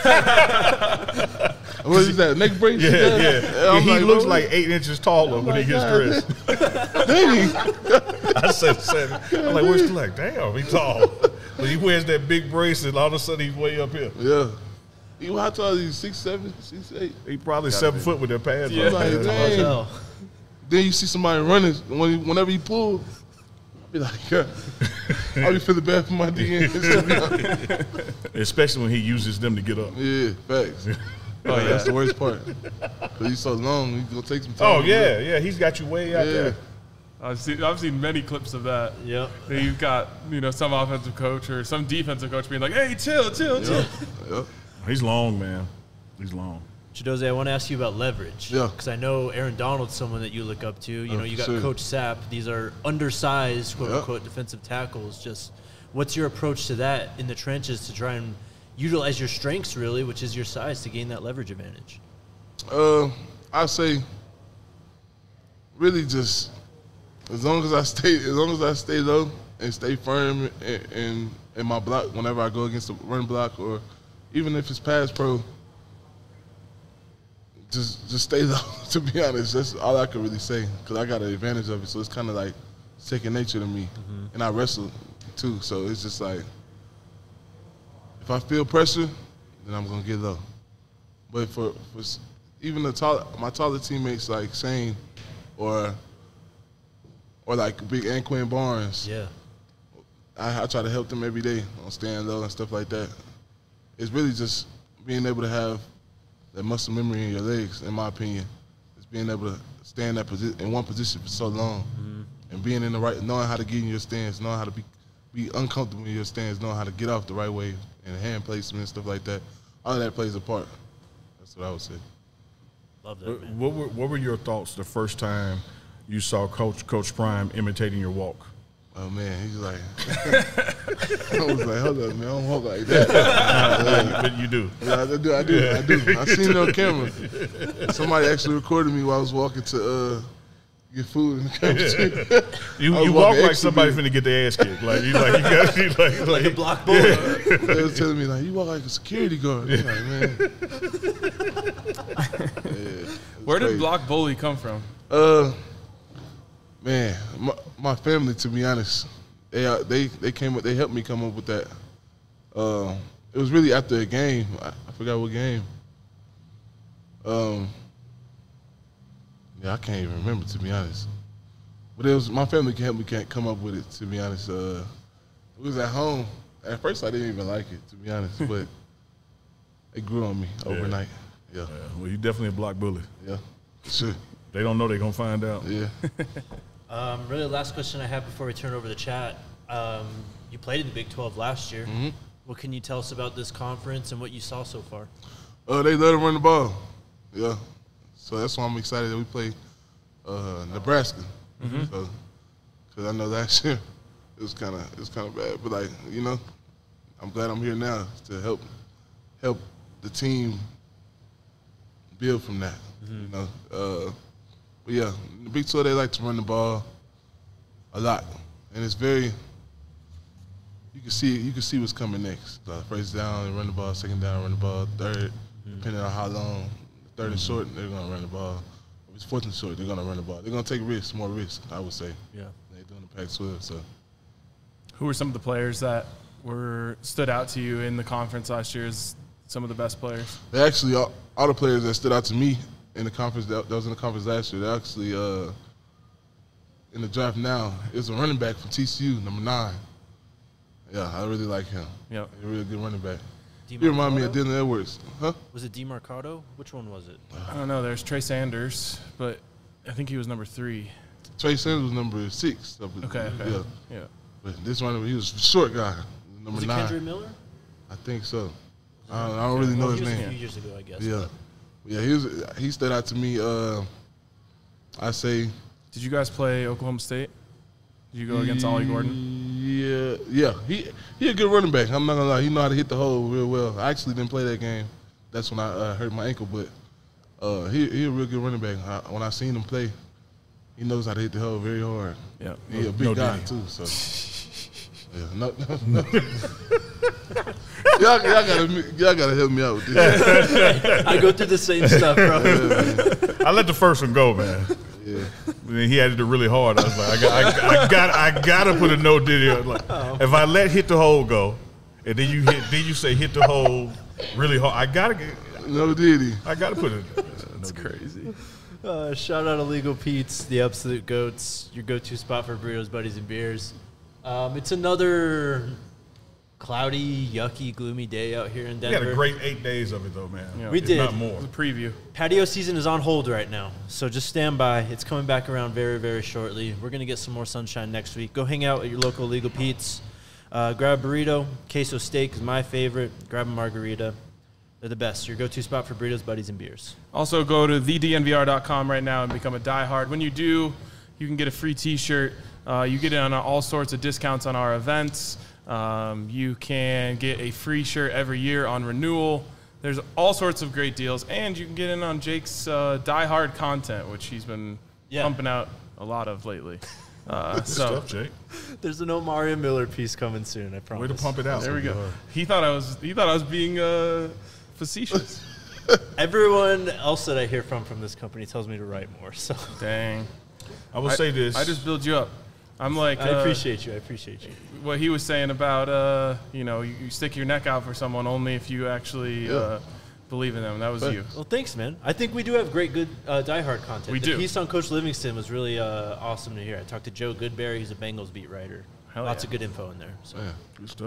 What is that? Neck brace? Yeah, yeah. I'm he like, looks bro, like eight inches taller when he like, gets God, dressed. dang. I said seven. I'm like, where's he like? Damn, he's tall. But he wears that big brace, and all of a sudden he's way up here. Yeah. You how tall is he? Six seven, six eight. He probably seven foot with their pads Yeah. on. Like, Yeah. dang. Hell. Then you see somebody running when he, whenever he pull, I'll be like, yeah. I'll be feeling bad for my D Ns. Especially when he uses them to get up. Yeah, facts. Oh yeah, that's the worst part. Cause he's so long, he's gonna take some time. Oh, to yeah, yeah. He's got you way out Yeah. there. I've seen I've seen many clips of that. Yep. That you've got, you know, some offensive coach or some defensive coach being like, "Hey, chill, chill, chill." Yeah. He's long, man. He's long. Chidoze, I want to ask you about leverage. Yeah. Because I know Aaron Donald's someone that you look up to. You Oh, know, you for got sure. Coach Sapp. These are undersized, quote Yeah. unquote, defensive tackles. Just what's your approach to that in the trenches to try and utilize your strengths, really, which is your size, to gain that leverage advantage? Uh, I say, really, just as long as I stay, as long as I stay low and stay firm in, in, in my block whenever I go against the run block, or even if it's pass pro, just just stay low. To be honest, that's all I can really say because I got an advantage of it. So it's kind of like second nature to me, and I wrestle too. So it's just like if I feel pressure, then I'm gonna get low. But for, for s- even the tall, my taller teammates like Shane, or or like Big Anquin Barnes, Yeah. I, I try to help them every day on staying low and stuff like that. It's really just being able to have that muscle memory in your legs, in my opinion. It's being able to stay in that position, in one position for so long. and being in the right, knowing how to get in your stance, knowing how to be be uncomfortable in your stance, knowing how to get off the right way, and hand placement and stuff like that. All of that plays a part. That's what I would say. Love that, What, man. what were what were your thoughts the first time you saw Coach Coach Prime imitating your walk? Oh man, he's like, I was like, hold up, man, I don't walk like that. But you do. Yeah, I do, I do, I do. I seen it on camera. Somebody actually recorded me while I was walking to uh, get food in the cafeteria. You, I was you walk walking like extra somebody big. finna get their ass kicked. Like you like you got you like like, The block bowler. They was telling me like, you walk like a security guard. I'm like, man. Yeah, Where did crazy. block bully come from? Uh, man, my, my family, to be honest, they uh, they they came up, they helped me come up with that. Uh, it was really after a game. I, I forgot what game. Um, yeah, I can't even remember, to be honest. But it was my family can help me can't come up with it, to be honest. Uh, it was at home. At first, I didn't even like it, to be honest, but it grew on me overnight. Yeah, Yeah, well, you definitely a block bully. yeah, sure, They don't know they're gonna find out. yeah. Um, really, the last question I have before we turn over the chat. Um, you played in the Big twelve last year. Mm-hmm. What can you tell us about this conference and what you saw so far? Uh, they let him run the ball. Yeah. So that's why I'm excited that we play uh, Nebraska. Mm-hmm. So, because I know last year it was kind of it was kind of bad, but like you know, I'm glad I'm here now to help help the team build from that. Mm-hmm. You know. Uh, but yeah, in the Big twelve they like to run the ball a lot, and it's very. You can see you can see what's coming next. Uh, first down, they run the ball. Second down, run the ball. Third, Mm-hmm. depending on how long. Third and short, they're gonna run the ball. If it's fourth and short, they're gonna run the ball. They're gonna take risks, more risks, I would say. Yeah. They're doing the Pac twelve, so. Who were some of the players that were stood out to you in the conference last year as some of the best players? They actually all, all the players that stood out to me in the conference that, that was in the conference last year. They actually uh, in the draft now is a running back from T C U, number nine. Yeah, I really like him. Yep. He's a really good running back. He DeMarcado? remind me of Dylan Edwards, huh? Was it DeMarcado? Which one was it? I don't know. There's Trey Sanders, but I think he was number three. Trey Sanders was number six. Okay. okay. Yeah, Yeah. but this running he was a short guy, number Was it nine. Kendra Miller? I think so. I don't, I don't really know Well, his he was name. a few years ago, I guess. Yeah, yeah. He was. He stood out to me. Uh, I say. Did you guys play Oklahoma State? Did you go against Ollie Gordon? Yeah, yeah. He he a good running back. I'm not gonna lie. He know how to hit the hole real well. I actually didn't play that game. That's when I uh, hurt my ankle. But uh, he he a real good running back. I, when I seen him play, he knows how to hit the hole very hard. Yeah. He a big No guy diddy. too. So yeah, no, no, no. y'all, y'all gotta y'all gotta help me out with this. I go through the same stuff, bro. I let the first one go, man. Yeah. And then he had to do really hard. I was like, I got, I, I got, I gotta put a no diddy. on. Like, if I let hit the hole go, and then you hit, then you say hit the hole really hard. I gotta, get, No diddy. I gotta put it. That's crazy. Uh, shout out Illegal Pete's, the absolute goats, your go-to spot for burritos, buddies, and beers. Um, it's another cloudy, yucky, gloomy day out here in We Denver. had a great eight days of it though, man. Yeah. We If did. not more. It was a preview. Patio season is on hold right now, so just stand by. It's coming back around very, very shortly. We're going to get some more sunshine next week. Go hang out at your local Illegal Pete's. Uh, grab a burrito. Queso steak is my favorite. Grab a margarita. They're the best. Your go-to spot for burritos, buddies, and beers. Also, go to the d n v r dot com right now and become a diehard. When you do, you can get a free T-shirt. Uh, you get it on all sorts of discounts on our events. Um, you can get a free shirt every year on renewal. There's all sorts of great deals, and you can get in on Jake's uh, diehard content, which he's been Yeah. pumping out a lot of lately. Uh, Good so stuff, Jake. There's an Omari Miller piece coming soon, I Way promise. to pump it out. there we go. He thought I was. He thought I was being uh, facetious. Everyone else that I hear from from this company tells me to write more, so Dang. I will I, say this. I just build you up. I'm like. I uh, appreciate you. I appreciate you. what he was saying about uh, you know you, you stick your neck out for someone only if you actually Yeah. uh, believe in them. That was But- you. Well, thanks, man. I think we do have great, good uh, diehard content. We the do. piece on Coach Livingston was really uh, awesome to hear. I talked to Joe Goodberry, who's a Bengals beat writer. Hell Lots yeah. of good info in there. So. Yeah. Good stuff.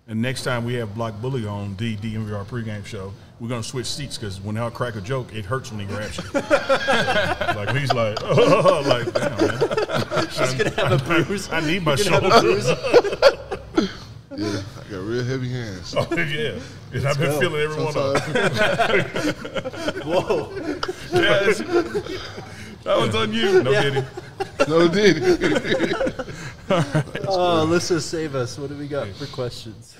And next time we have Block Bully on the D M V R pregame show, we're going to switch seats because when I crack a joke, it hurts when he grabs you. Like, he's like, oh, like, damn, man. He's going to have a bruise. I need my You're shoulder. gonna have a bruise. Yeah, I got real heavy hands. Oh, yeah. And I've been go. feeling every one of them. Whoa. Yes. That one's on you. No kidding. No, did Oh, Alyssa, save us. What do we got for questions?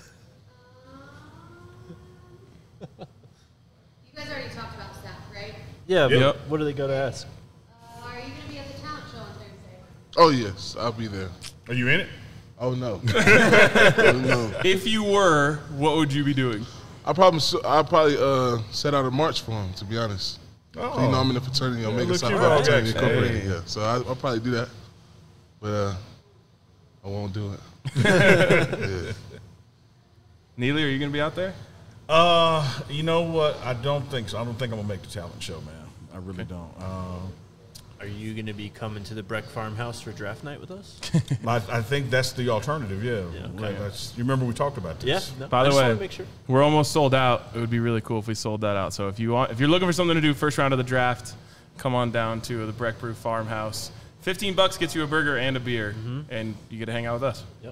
You guys already talked about staff, right? Yeah, but Yep. what do they got to ask? Uh, are you going to be at the talent show on Thursday? Oh, yes, I'll be there. Are you in it? Oh, no. oh, no. If you were, what would you be doing? I probably, I'll probably uh, set out a march for him, to be honest. Oh. You know, I'm in the fraternity, Omega look Psi you Phi up. Fraternity Hey. Incorporated. Yeah, so I, I'll probably do that. But uh, I won't do it. yeah. Neely, are you going to be out there? Uh, you know what? I don't think so. I don't think I'm going to make the talent show, man. I really don't. Uh, Are you going to be coming to the Breck Farmhouse for draft night with us? I, I think that's the alternative, yeah. Yeah, okay. Like, that's, you remember we talked about Yeah. this? No, By I the just way, wanna make sure. we're almost sold out. It would be really cool if we sold that out. So if you want, if you're looking for something to do first round of the draft, come on down to the Breck Brew Farmhouse. Fifteen bucks gets you a burger and a beer, and you get to hang out with us. Yep.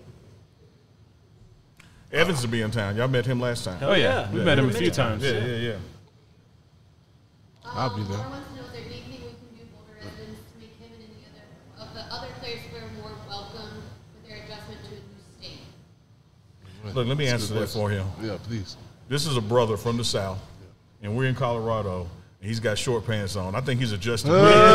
Evans will be in town. Y'all met him last time. Hell Oh yeah, yeah. we Yeah. met him a Many few times. times. Yeah, yeah, yeah. I'll be there. Laura wants to know, is there anything we can do Boulder residents to make him and any other of the other players feel more welcome with their adjustment to a new state? Look, let me That's a answer good that for him. Yeah, please. This is a brother from the South, and we're in Colorado, and he's got short pants on. I think he's adjusting.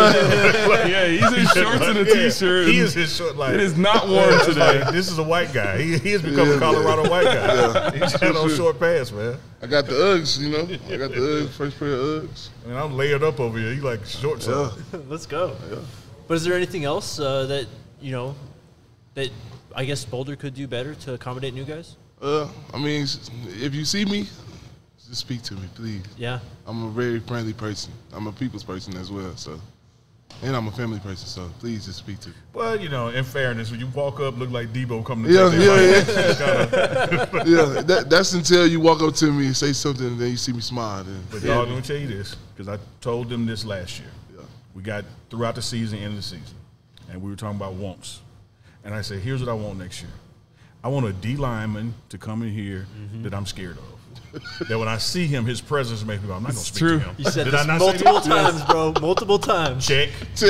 Yeah, he's in shorts and a Yeah, t-shirt. He and is his short, like, It is not warm it's today. like, this is a white guy. He, he has become Yeah, a Colorado white guy. Yeah. He's got on short pants, man. I got the Uggs, you know. I got the Uggs, first pair of Uggs. I mean, I'm layered up over here. He like shorts Yeah. on. Let's go. But is there anything else uh, that, you know, that I guess Boulder could do better to accommodate new guys? Uh, I mean, if you see me, just speak to me, please. Yeah. I'm a very friendly person. I'm a people's person as well, so. And I'm a family person, so please just speak to me. Well, you know, in fairness, when you walk up, look like Debo coming to Yeah, take yeah, their yeah. life. Yeah, that, that's until you walk up to me and say something, and then you see me smile. Then. But dog, let me tell you this, because I told them this last year. Yeah. We got throughout the season, end of the season, and we were talking about wants. And I said, here's what I want next year. I want a D lineman to come in here Mm-hmm. that I'm scared of. That when I see him, his presence makes me go, I'm not going to speak true. to him. You said Did this I not say multiple this? times, bro. Multiple times. Check.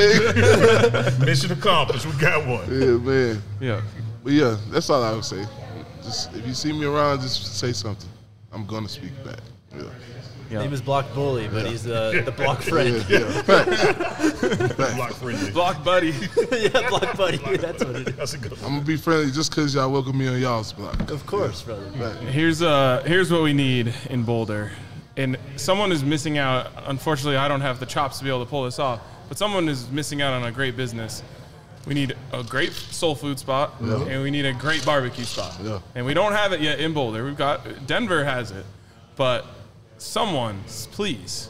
Check. Mission accomplished. We got one. Yeah, man. Yeah. But yeah, that's all I would say. Just if you see me around, just say something. I'm gonna speak back. Yeah. Yeah. Name is Block Bully, but he's the, the block friend. Yeah, yeah. Facts. Block friendly. Block buddy. yeah, block buddy. That's what it is. That's a good one. I'm gonna be friendly just cause y'all welcome me on y'all's block. Of course, brother. Right. Here's uh here's what we need in Boulder, and someone is missing out. Unfortunately, I don't have the chops to be able to pull this off, but someone is missing out on a great business. We need a great soul food spot, Yeah. and we need a great barbecue spot. Yeah. And we don't have it yet in Boulder. We've got Denver has it, but someone, please,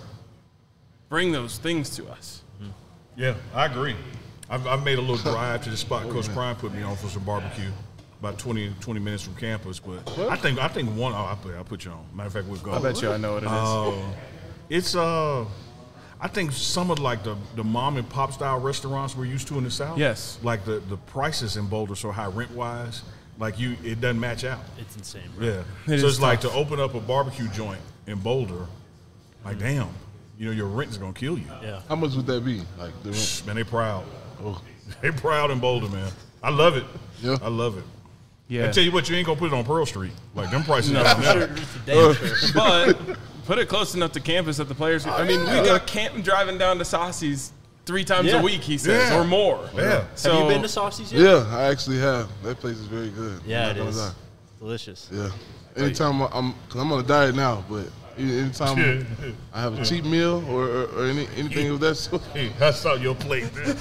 bring those things to us. Yeah, I agree. I've, I've made a little drive to the spot Coach Prime put me on for some barbecue, about twenty, twenty minutes from campus. But I think I think one. Oh, I'll put I'll put you on. Matter of fact, we'll go. I bet you I know what it is. Uh, it's uh, I think some of like the, the mom and pop style restaurants we're used to in the South. Yes. Like the, the prices in Boulder so high rent wise, like you it doesn't match out. It's insane, bro. Yeah. It so is it's like tough. to open up a barbecue joint in Boulder, like damn, you know your rent is gonna kill you. Yeah. How much would that be? Like the rent? Man, they proud. Oh. They proud in Boulder, man. I love it. Yeah. I love it. Yeah. I tell you what, you ain't gonna put it on Pearl Street. Like them prices. No. are Sure, never. it's a damn sure. But put it close enough to campus that the players. I mean, we got Canton driving down to Saucy's three times Yeah. a week. He says, Yeah. or more. Yeah. So, Have you been to Saucy's yet? Yeah, I actually have. That place is very good. Yeah, I'm it not gonna is. lie. Delicious. Yeah. Anytime I- I'm, cause I'm on a diet now, but anytime I have a cheap meal or, or, or any, anything of that sort, Hey, I saw your plate. Man.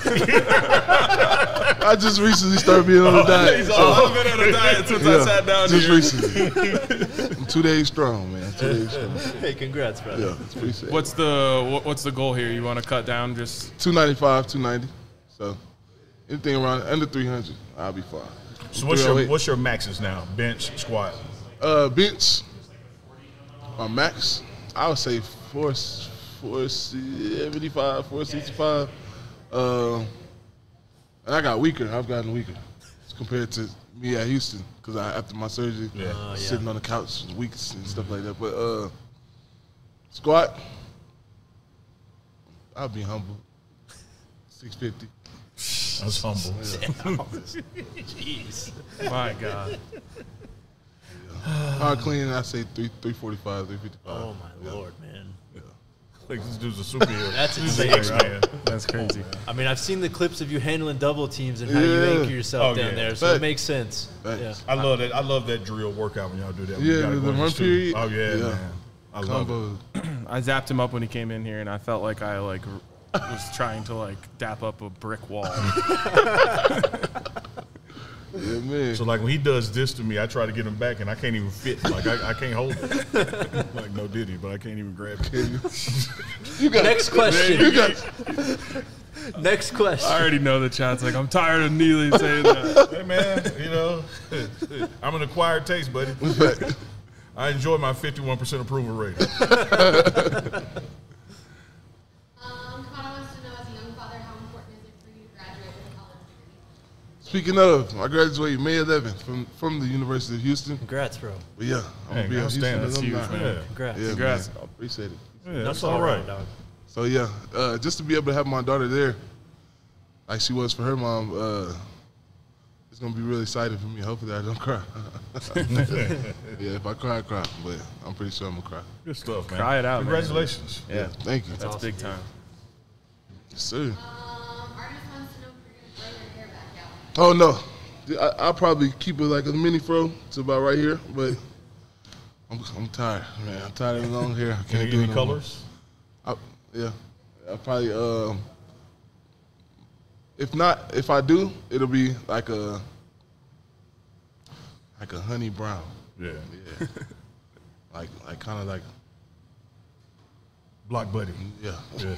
I just recently started being on a diet. He's so, all, I've been on a diet since I yeah, sat down just here. recently. I'm two days strong, man. Two days strong. Hey, congrats, brother. Yeah, it's appreciate it. What's the what, what's the goal here? You want to cut down just two ninety-five, two ninety. So anything around under three hundred, I'll be fine. So what's your three oh eight. what's your maxes now? Bench, squat. Uh, bench. My max, I would say four, four seventy-five, four sixty-five. Uh, and I got weaker. I've gotten weaker compared to me at Houston because I after my surgery, Yeah. Oh, yeah. sitting on the couch weeks and stuff like that. But uh, squat, I'll be humble. six fifty. That's humble. Jeez. My God. Hard clean, I say three, three forty-five, three fifty-five. Oh my lord, man. Like this dude's a superhero. That's He's an insane. X-Man. That's crazy. I mean, I've seen the clips of you handling double teams and how you Yeah. anchor yourself Oh, down yeah. there, so Facts. it makes sense. Facts. Yeah. I love that. I love that drill workout when y'all do that. When you Yeah, gotta the go in run studio. period. Oh yeah, Yeah. man. I love it. Combo. I zapped him up when he came in here, and I felt like I like r- was trying to like dap up a brick wall. Yeah, man. So like when he does this to me, I try to get him back, and I can't even fit. Like I, I can't hold it. Like no Diddy, but I can't even grab it. You got Next question. You got Next question. I already know the chat's like, I'm tired of Neely saying that. Hey man, you know, I'm an acquired taste, buddy. I enjoy my fifty-one percent approval rating. Um, Kana wants to know, as a young father, how important is it for you to graduate with a college degree? Speaking of, I graduated May eleventh from from the University of Houston. Congrats, bro. But yeah, I'm Hey, gonna be a Houston outstanding. That's alumni. huge, man. Yeah, Congrats. Yeah, Congrats. man. Appreciate it. yeah, that's all all right. dog. So yeah, uh, just to be able to have my daughter there, like she was for her mom, uh, it's gonna be really exciting for me. Hopefully, I don't cry. Yeah, if I cry, I cry. But I'm pretty sure I'm gonna cry. Good stuff, man. Cry it out, man. Congratulations. Yeah, Thank you. that's big time. Yes, sir. Um, Artemis wants to know if you're going to grow your hair back out. Oh no, I, I'll probably keep it like a mini fro to about right here. But I'm, I'm tired, man. I'm tired of the long hair. I can't Any, do it any no more. colors? I, yeah, I probably. Um, if not, if I do, it'll be like a like a honey brown. Yeah. Yeah, like like kind of like Block buddy. yeah. Yeah.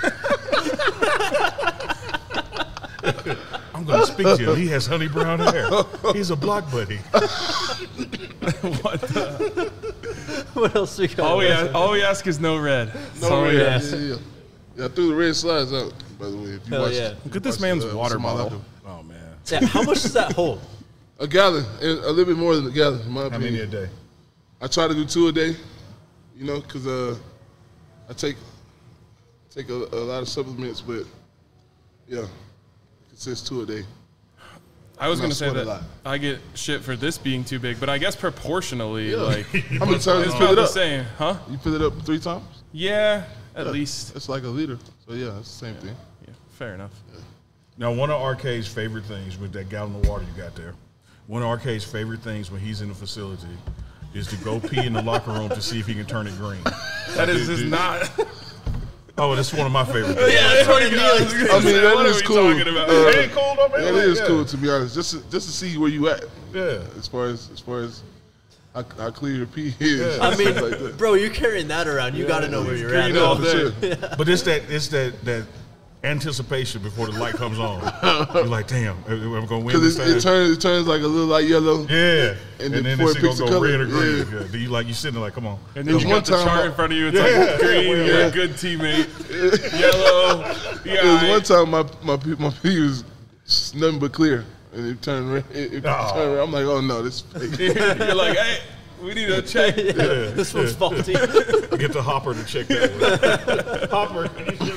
I'm going to speak to him. He has honey brown hair. He's a block buddy. What the? What else we got? All we, ask, all we ask is no red. That's all No we red. ask. Yeah, yeah, yeah. Yeah, I threw the red slides out. By the way, if you Hell watch, yeah. if Look you at this watch, man's uh, water some of my bottle. life. Oh, man. Yeah, how much does that hold? A gallon, and a little bit more than a gallon, in my How opinion. many a day? I try to do two a day, you know, because uh, I take take a, a lot of supplements, but yeah, it says two a day. I was I'm going not to say sweating a that lot. I get shit for this being too big, but I guess proportionally, Yeah. like, How many times it's you fill about it the up? same, huh? You fill it up three times? Yeah, at Yeah. least. It's like a liter. So yeah, it's the same thing. Yeah, fair enough. Now, one of R K's favorite things with that gallon of water you got there, one of R K's favorite things when he's in the facility is to go pee in the locker room to see if he can turn it green. That is just not. Oh, that's one of my favorite things. Yeah, that's what he I mean, that what is are we cool. talking about? Uh, It ain't cool, though, man. That Like, is yeah. cool, to be honest. Just to, just to see where you at, Yeah. as far as as far as how, how clear your pee is. I mean, stuff like that. bro, you're carrying that around. You got to know where you're at. green all for day. sure. But it's that it's that that anticipation before the light comes on. You're like, damn, am I gonna win Because this it, time? it turns it turns like a little light yellow. yeah, and and, then then before it's it gonna picks the go color, red or green. yeah. Yeah. Then you like you sitting there like, come on. And then There's you one got the time chart I- in front of you. It's Yeah, like green, yeah, you're yeah. a good teammate. Yellow, yeah. There was one time my my pee, my pee was nothing but clear, and it turned red. It, it Oh. turned red. I'm like, oh no, this is fake. You're like, hey, we need a check. This one's faulty. Get the hopper to check that one. Hopper.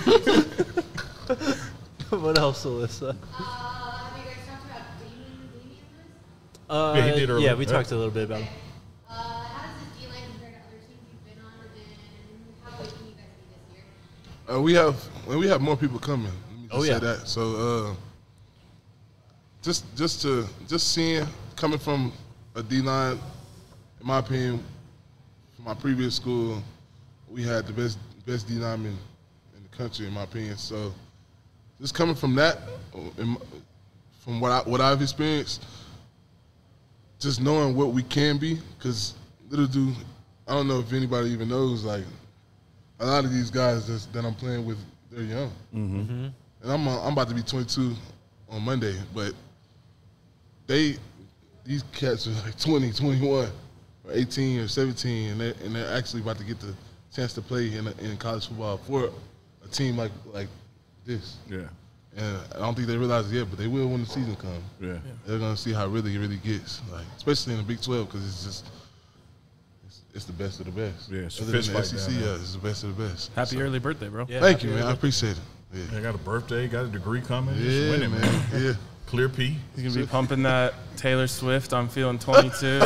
What else, Alyssa? Uh, have you guys talked about Damien, Damien Lewis? Uh, Yeah, he did earlier. Yeah, we Yeah. talked a little bit about him. Uh, how does this D-line compare to other teams you've been on, and how good can you guys be this year? Uh, we have well, we have more people coming. Let me just Oh, say yeah. that. So uh, just just to just seeing coming from a D line, in my opinion, from my previous school, we had the best best D lineman in the country, in my opinion. So just coming from that, in my- from what I what I've experienced, just knowing what we can be, because little do I don't know if anybody even knows, like a lot of these guys that's, that I'm playing with, they're young, mm-hmm. and I'm uh, I'm about to be twenty-two on Monday, but they these cats are like twenty, twenty-one or eighteen or seventeen, and they're, and they're actually about to get the chance to play in, a, in college football for a team like like this. Yeah. And I don't think they realize it yet, but they will when the season comes. Yeah. They're gonna see how really it really gets, like especially in the Big twelve, because it's just it's, it's the best of the best. Yeah, it's a Other fist than the fight S E C, down there. yeah, it's the best of the best. Happy So, early birthday, bro. Yeah, thank happy you, man. I early- appreciate it. They Yeah, got a birthday, got a degree coming. Just yeah, winning, man. man. Yeah. Clear P. He's gonna be pumping that Taylor Swift. I'm feeling twenty-two.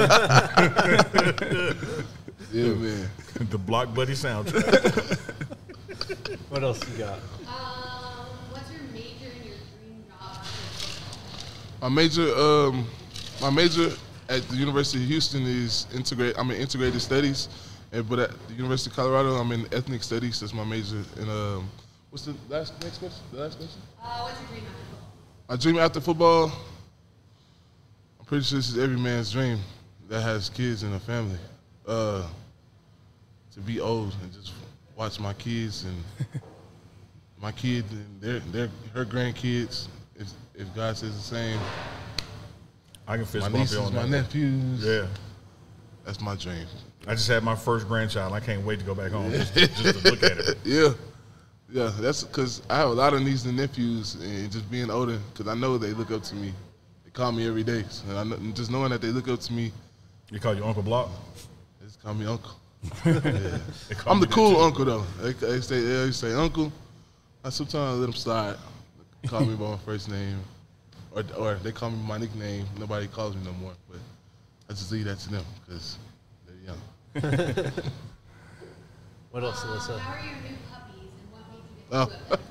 Yeah, man. The Block Buddy soundtrack. What else you got? Um, what's your major and your dream job after football? My major, um, my major at the University of Houston is integrate. I'm in integrated studies, and but at the University of Colorado, I'm in ethnic studies. That's my major. And um, what's the last next question? The last question. Uh, what's your dream after football? My dream after football. I'm pretty sure this is every man's dream that has kids and a family. Uh, to be old and just watch my kids and my kids and their their her grandkids. If if God says the same. I can fist My bump you nieces, on my that. nephews. Yeah. That's my dream. I just had my first grandchild. I can't wait to go back home just, just to look at it. Yeah. Yeah, that's because I have a lot of nieces and nephews, and just being older, because I know they look up to me. They call me every day. So and I know, and just knowing that they look up to me, You call you Uncle Block? they just call me uncle. They call I'm me the that cool too. uncle, though. They, they say, they say uncle. I sometimes let them slide. Call me by my first name. Or, or they call me my nickname. Nobody calls me no more. But I just leave that to them, because they're young. What else, Um, Alyssa? how are your new puppies and what made you get Oh.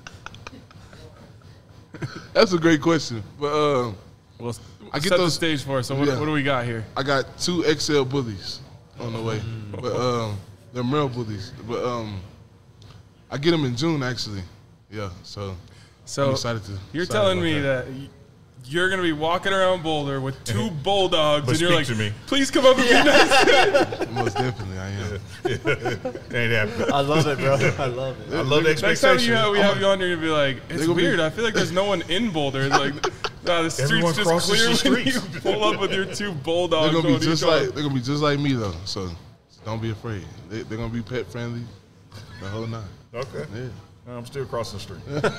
into it? That's a great question. But um, Well, I get set those- the stage for us. So what, Yeah. what do we got here? I got two X L bullies on the way, but um, they're male bullies. But um, I get them in June actually. Yeah, so So I'm excited to. you're excited telling about me that. y- you're gonna be walking around Boulder with two bulldogs, But and you're speak like, to me. "Please come up and be nice." Most definitely, I am. Ain't happening. I love it, bro. I love it. I love the Next time expectation. you have, we have you on here, you'll be like, "It's gonna be- weird. I feel like there's no one in Boulder." It's like, nah, the streets Everyone just crosses clear the when you streets. pull up with your two bulldogs. They're gonna be on just each like arm. they're gonna be just like me though. So don't be afraid. They, they're gonna be pet friendly, the whole nine. Okay. Yeah. I'm still crossing the street.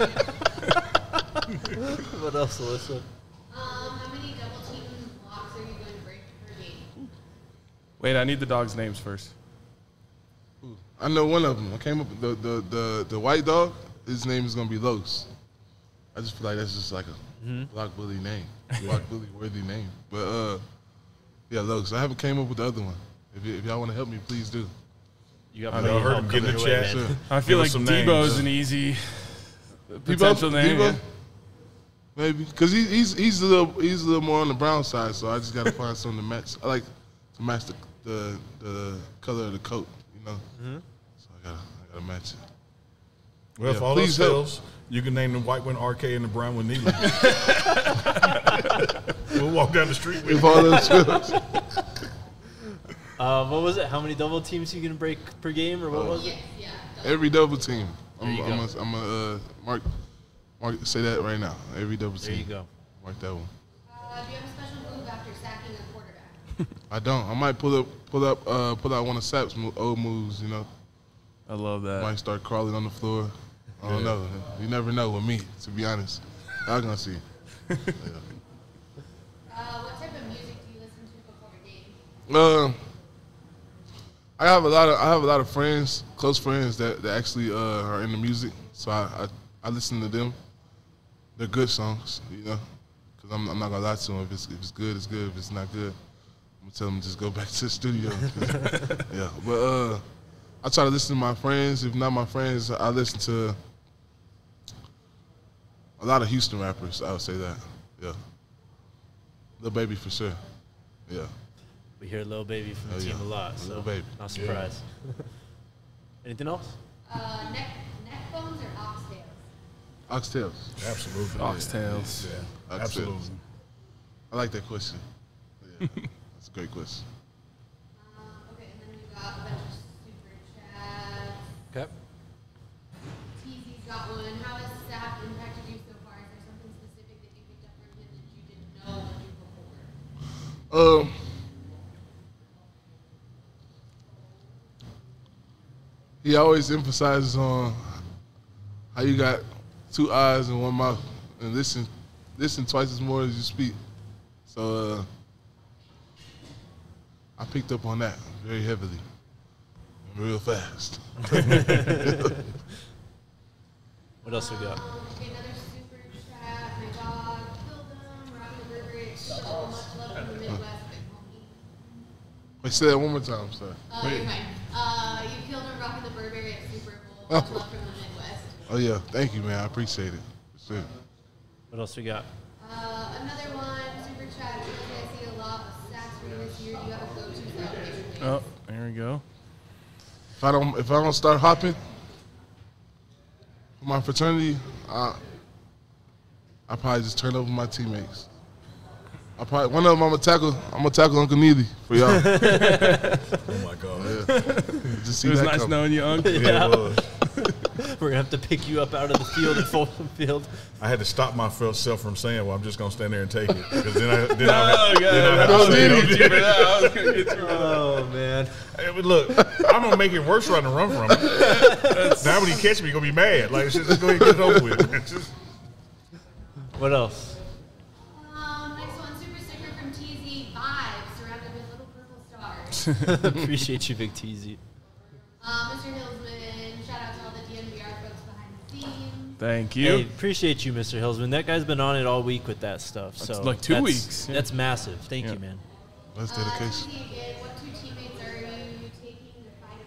What else, Alyssa? Um, how many double team blocks are you going to break per game? Wait, I need the dogs' names first. I know one of them. I came up with the the the, the white dog. His name is gonna be Los. I just feel like that's just like a block bully name, block bully worthy name. But uh, yeah, Los. I haven't came up with the other one. If, y- if y'all want to help me, please do. You got I plenty know. I of heard help him get in the coming your way, chat. man. Sure. I feel Give like us some Debo's names. an easy potential Debo? name. Debo? yeah. Maybe because he, he's he's a little he's a little more on the brown side, so I just got to find something to match. I like to match the the, the color of the coat, you know. So I gotta I gotta match it. Well, if Yeah, all please those help. fails, you can name the white one R K and the brown one Neely. We'll walk down the street with If all those fails, Uh, what was it? How many double teams you gonna break per game, or what was it? Yes, yeah. every double team. I'm There you I'm go. a, I'm a uh, mark mark say that right now. Every double team. There you go. Mark that one. Uh, do you have a special move after sacking a quarterback? I don't. I might pull up pull up uh, pull out one of Sap's mo- old moves. You know, I love that. might start crawling on the floor. I don't know. You never know with me. To be honest, I'm gonna see. Yeah. Uh, what type of music do you listen to before a game? Um, I have a lot of I have a lot of friends, close friends that, that actually uh, are into music. So I, I I listen to them. They're good songs, you know. Cause I'm I'm not gonna lie to them. If it's if it's good, it's good. If it's not good, I'm gonna tell them to just go back to the studio. Yeah, but uh, I try to listen to my friends. If not my friends, I listen to a lot of Houston rappers. I would say that. Yeah, Lil Baby for sure. Yeah. We hear Lil Baby from the Oh, team yeah. a lot, so Lil Baby. not surprised. Anything else? Uh, neck, neck bones or oxtails? Oxtails. Absolutely. Oxtails. Yeah, Oxtails. absolutely. I like that question. Yeah, that's a great question. Uh, okay, and then we got a bunch of super chats. Okay. T Z's got one. How has Sap impacted you so far? Is there something specific that you picked up from him that you didn't know or do before? Um, he always emphasizes on how you got two eyes and one mouth, and listen, listen twice as more as you speak. So uh, I picked up on that very heavily, and real fast. What else we got? Um, okay, another super chat. My dog killed him. Robbie the Burger. It's so much love from the Midwest, big homie. Wait, say that one more time, sir. Uh, you're fine. Uh, you killed him, Robbie the Burberry at Super Bowl. Much love from the Midwest. Oh yeah, thank you, man. I appreciate it. For sure. What else we got? Uh, another one, super chat. It says, I see a lot of sacks for you this year. Do you have a go-to celebration? Oh, there we go. If I don't, if I don't start hopping for my fraternity, I, I probably just turn over my teammates. I probably one of them I'm gonna tackle. I'm gonna tackle Uncle Neely for y'all. Oh my God. Yeah. Just see It was that nice coming. knowing you, Uncle. Yeah, it was. We're gonna have to pick you up out of the field at Fulton Field. I had to stop myself from saying, "Well, I'm just gonna stand there and take it," because then I then I, Oh, then I God. have I was to say gonna it. get you for that. I was gonna get you for that. Oh man. Hey, but look, I'm gonna make it worse trying to run from it. Now when he catch me, he gonna be mad. Like, just go ahead and get it over with. It's just- What else? Um, next one, super sticker from T Z Vibes, surrounded with little purple stars. Appreciate you, Big Teasy. Uh, Mister Hillsman, shout out to all the D N V R folks behind the scenes. Thank you. Hey, appreciate you, Mister Hillsman. That guy's been on it all week with that stuff. So like two that's- weeks, yeah. That's massive. Thank Yeah. you, man. That's Uh, dedication. T Z again, what two teammates are you taking to fight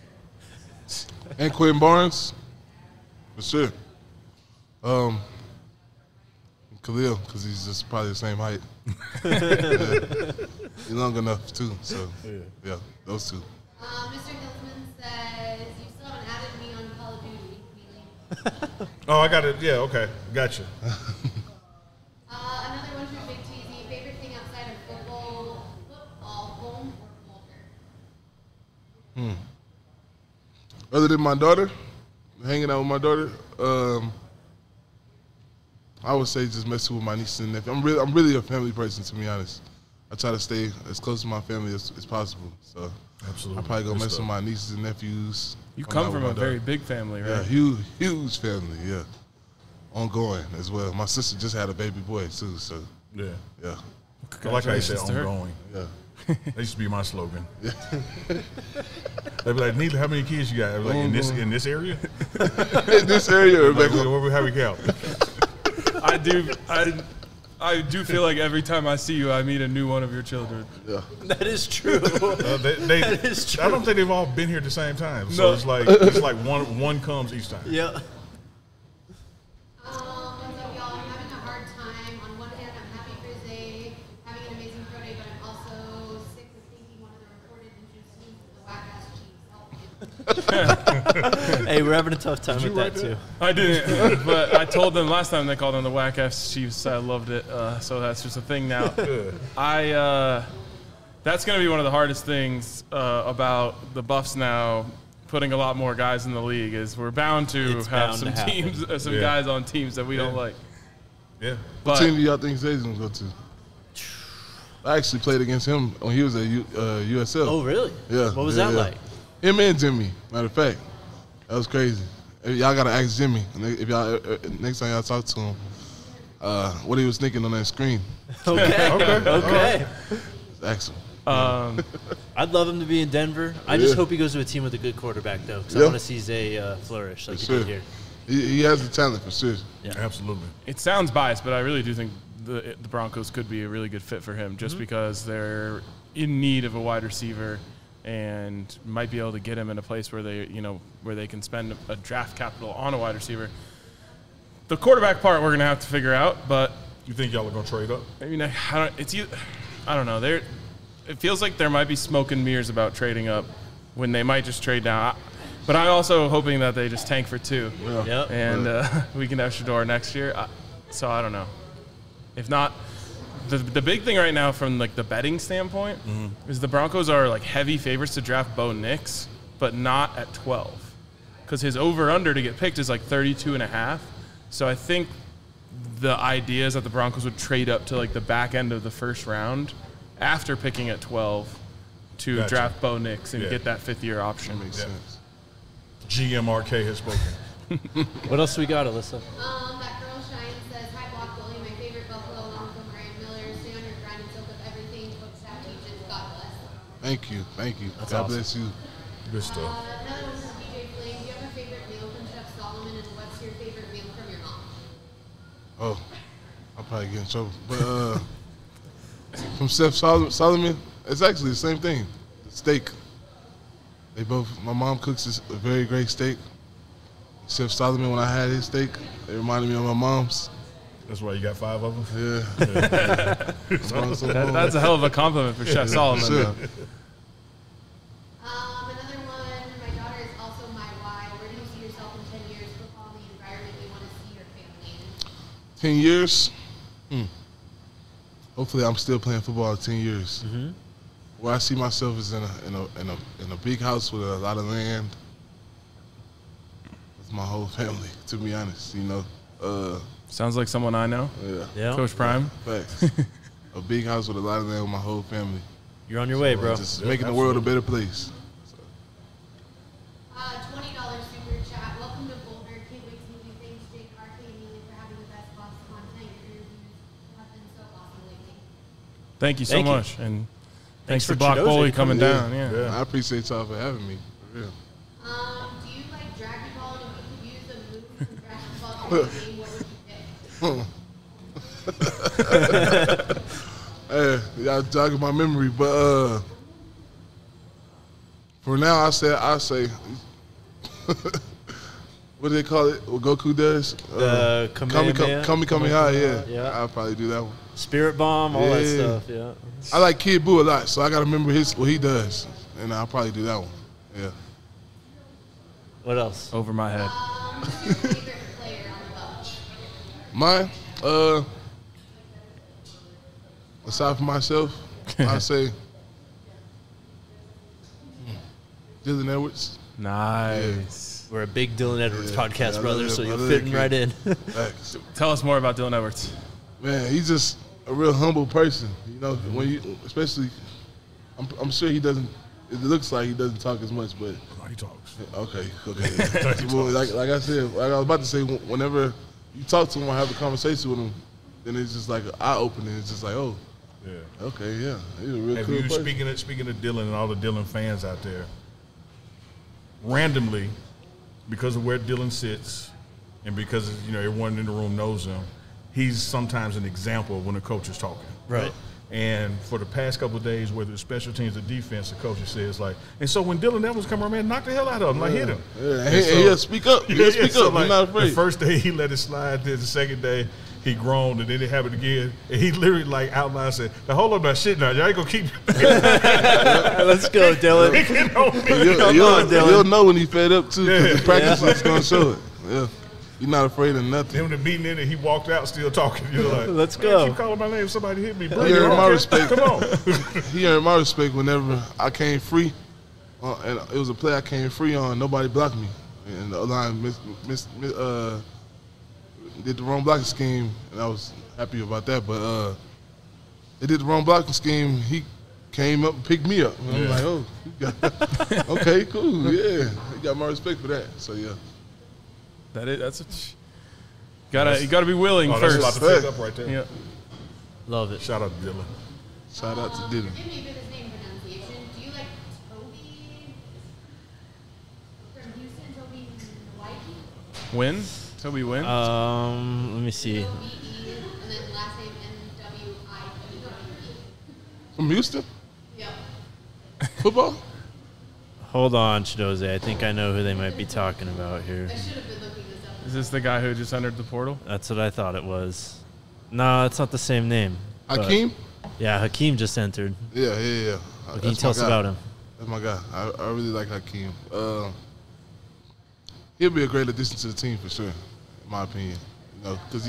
a bear? And Quentin Barnes, for sure. Um, Khalil, because he's just probably the same height. Yeah. He's long enough too. So yeah, those two. Um, Mister Hillsman says, you still haven't added me on Call of Duty. Really? Oh, I got it. Yeah, okay, gotcha. Uh, another one from Big T Z, favorite thing outside of football, football, home or Boulder? Other than my daughter, hanging out with my daughter, um, I would say just messing with my nieces and nephews. I'm really, I'm really a family person, to be honest. I try to stay as close to my family as, as possible. So Absolutely. I probably go Good mess stuff. with my nieces and nephews. You hang come out from with a my very daughter. big family, Yeah, right? huge, huge family. Yeah, ongoing as well. My sister just had a baby boy too. So Yeah, yeah, I like how you said Congratulations to her. ongoing. yeah. That used to be my slogan. They'd be like, "Neither, how many kids you got?" I was like, "In this in this area." In this area, Like, Rebecca. where we how we count? I do. I, I do feel like every time I see you, I meet a new one of your children. Yeah. That is true. Uh, they, they, That is true. I don't think they've all been here at the same time. So No. it's like it's like one one comes each time. yeah. Um, what's up, y'all? I'm having a hard time. On one hand, I'm happy for Zay having an amazing pro day, but I'm also sick of thinking one of the reported injuries of the whack-ass Chiefs. Help me. Hey, we're having a tough time with that too. I didn't, but I told them last time they called on the Whack F Chiefs. I loved it, uh, so that's just a thing now. I uh, that's going to be one of the hardest things uh, about the Buffs now. Putting a lot more guys in the league is we're bound to It's have bound some to happen. teams, uh, some Yeah. guys on teams that we don't Yeah. like. Yeah. What But team do y'all think Zay's gonna go to? I actually played against him when he was at U, uh, U S L. Oh, really? Yeah. What was yeah, that yeah. like? Him and Jimmy. Matter of fact, that was crazy. If y'all gotta ask Jimmy if y'all uh, uh, next time y'all talk to him, uh, what he was thinking on that screen. Okay. okay. Okay. Ask him. um, I'd love him to be in Denver. I just Yeah. hope he goes to a team with a good quarterback, though, because I Yeah. want to see Zay uh, flourish like For he sure. did here. He, he has the talent for sure. Absolutely. it sounds biased, but I really do think the the Broncos could be a really good fit for him, just because they're in need of a wide receiver and might be able to get him in a place where they, you know, where they can spend a draft capital on a wide receiver. The quarterback part we're gonna have to figure out, but You think y'all are gonna trade up? I mean, I don't, it's either, I don't know. There, it feels like there might be smoke and mirrors about trading up when they might just trade down. I- But I'm also hoping that they just tank for two, Yep. and uh, we can have Shador next year. I, so I don't know. If not, the the big thing right now from like the betting standpoint is the Broncos are like heavy favorites to draft Bo Nix, but not at twelve, because his over under to get picked is like thirty-two and a half. So I think the idea is that the Broncos would trade up to like the back end of the first round after picking at twelve to Gotcha. draft Bo Nix and Yeah. get that fifth year option. Makes Yeah. sense. G M R K has spoken. What else we got, Alyssa? Um, that girl Shine says, "Hi, Block Bully, my favorite Buffalo, along with Mariah Miller. Stay on your grind and soak up everything Coach Staff teaches. God bless." Thank you, thank you. That's God awesome. bless you. Good Uh, stuff. another one from D J Flame. Do you have a favorite meal from Chef Solomon, and what's your favorite meal from your mom? Oh, I'll probably get in trouble. But uh, from Chef Sol- Solomon, it's actually the same thing. The steak. They both. My mom cooks this- a very great steak. Chef Solomon, when I had his steak, it reminded me of my mom's. That's why you got five of them? Yeah. Mom's so That, cool. that's a hell of a compliment for Chef Solomon. Sure. though. Um, another one. My daughter is also my why. Where do you see yourself in ten years? Football, and the environment you want to see your family in. Ten years. Hmm. Hopefully, I'm still playing football in ten years. Mm-hmm. Where I see myself is in a in a in a in a big house with a lot of land. With my whole family, to be honest, you know. Uh, Sounds like someone I know. yeah. Yeah. Coach Prime. Facts. A big house with a lot of land with my whole family. You're on your way, bro. Just Yeah, making the world a better place. Uh, twenty dollars super chat. Welcome to Boulder. Can't wait to meet you. Thanks, Jake, R K, and Neely for having the best box content. Your interviews have been so awesome lately. Thank you so Thank you. much. And thanks, for to Block Chidoze Bully coming coming Yeah. down. Yeah. Yeah. I appreciate y'all for having me. For real. Um, do you like Dragon Ball? And if you could use a move from Dragon Ball to the game, what would you pick? Hey, y'all jogging my memory, but uh, for now, I say I say, what do they call it? What Goku does? The Kami Kamehameha? Kami Kami High, yeah. Yeah. I'll probably do that one. Spirit Bomb, all that Yeah. stuff. Yeah. I like Kid Buu a lot, so I gotta remember his what he does, and I'll probably do that one. Yeah. What else? Over my head. Um, who's your favorite player on the Bucks? Mine, uh, aside from myself, I say hmm, Dylan Edwards. Nice. We're a big Dylan Edwards Yeah. podcast, Yeah, I brother, love so that- I you're love that fitting kid. right in. Facts. Tell us more about Dylan Edwards. Man, he's just a real humble person. You know, when you, especially, I'm, I'm sure he doesn't. It looks like he doesn't talk as much, but Oh, he talks. okay, okay. Well, like, like I said, like I was about to say, whenever you talk to him or have a conversation with him, then it's just like an eye opening. It's just like, oh, Yeah. okay, yeah, he's a real Have cool you, person. speaking of, speaking of Dylan and all the Dylan fans out there, randomly, because of where Dylan sits and because, you know, everyone in the room knows him, he's sometimes an example of when a coach is talking. Right. And for the past couple of days, whether it's special teams or defense, the coach says like, and so when Dylan Evans come around, man, knock the hell out of him, like hit him. Yeah, and And he, so- and he'll speak up. He'll Yeah, speak so up. like, He's not the afraid. first day he let it slide, then the second day he groaned, and then it happened again. And he literally like outlined said, "Now hold on that shit now, y'all ain't gonna keep Let's go, Dylan. picking on me." You'll, Come you'll, on, Dylan. you'll know when he's fed up too, because Yeah. the practice is gonna show it. Yeah, you're not afraid of nothing. Then when the meeting ended, he walked out still talking. You're like, Let's "Man, go." keep calling my name, somebody hit me. He Bring it earned on, my kid. respect. Come on. He earned my respect whenever I came free, uh, and it was a play I came free on. Nobody blocked me, and the line miss, miss, miss, uh, did the wrong blocking scheme, and I was happy about that. But uh, they did the wrong blocking scheme. He came up and picked me up. And I'm Yeah. like, oh, you got, okay, cool, yeah. He got my respect for that. So yeah, That is, that's a, gotta you gotta be willing Oh, that's a lot first. to pick up right there. Yeah. Love it. Shout out to Dylan. shout out to Um, Dylan. Forgive me for this name pronunciation. Do you like Toby from Houston? Toby Nwaiki? Win. Toby win. Um, let me see. O B E, and then last name N W I Q E. From Houston, Yep. football. Hold on, Chidoze. I think I know who they might be talking about here. I should have been looking this up. Is this the guy who just entered the portal? That's what I thought it was. No, it's not the same name. but- Hakeem. Yeah, Hakeem just entered. Yeah, yeah, yeah. What can you tell us about him? That's my guy. I, I really like Hakeem. Uh, he'll be a great addition to the team for sure, in my opinion. You know, because he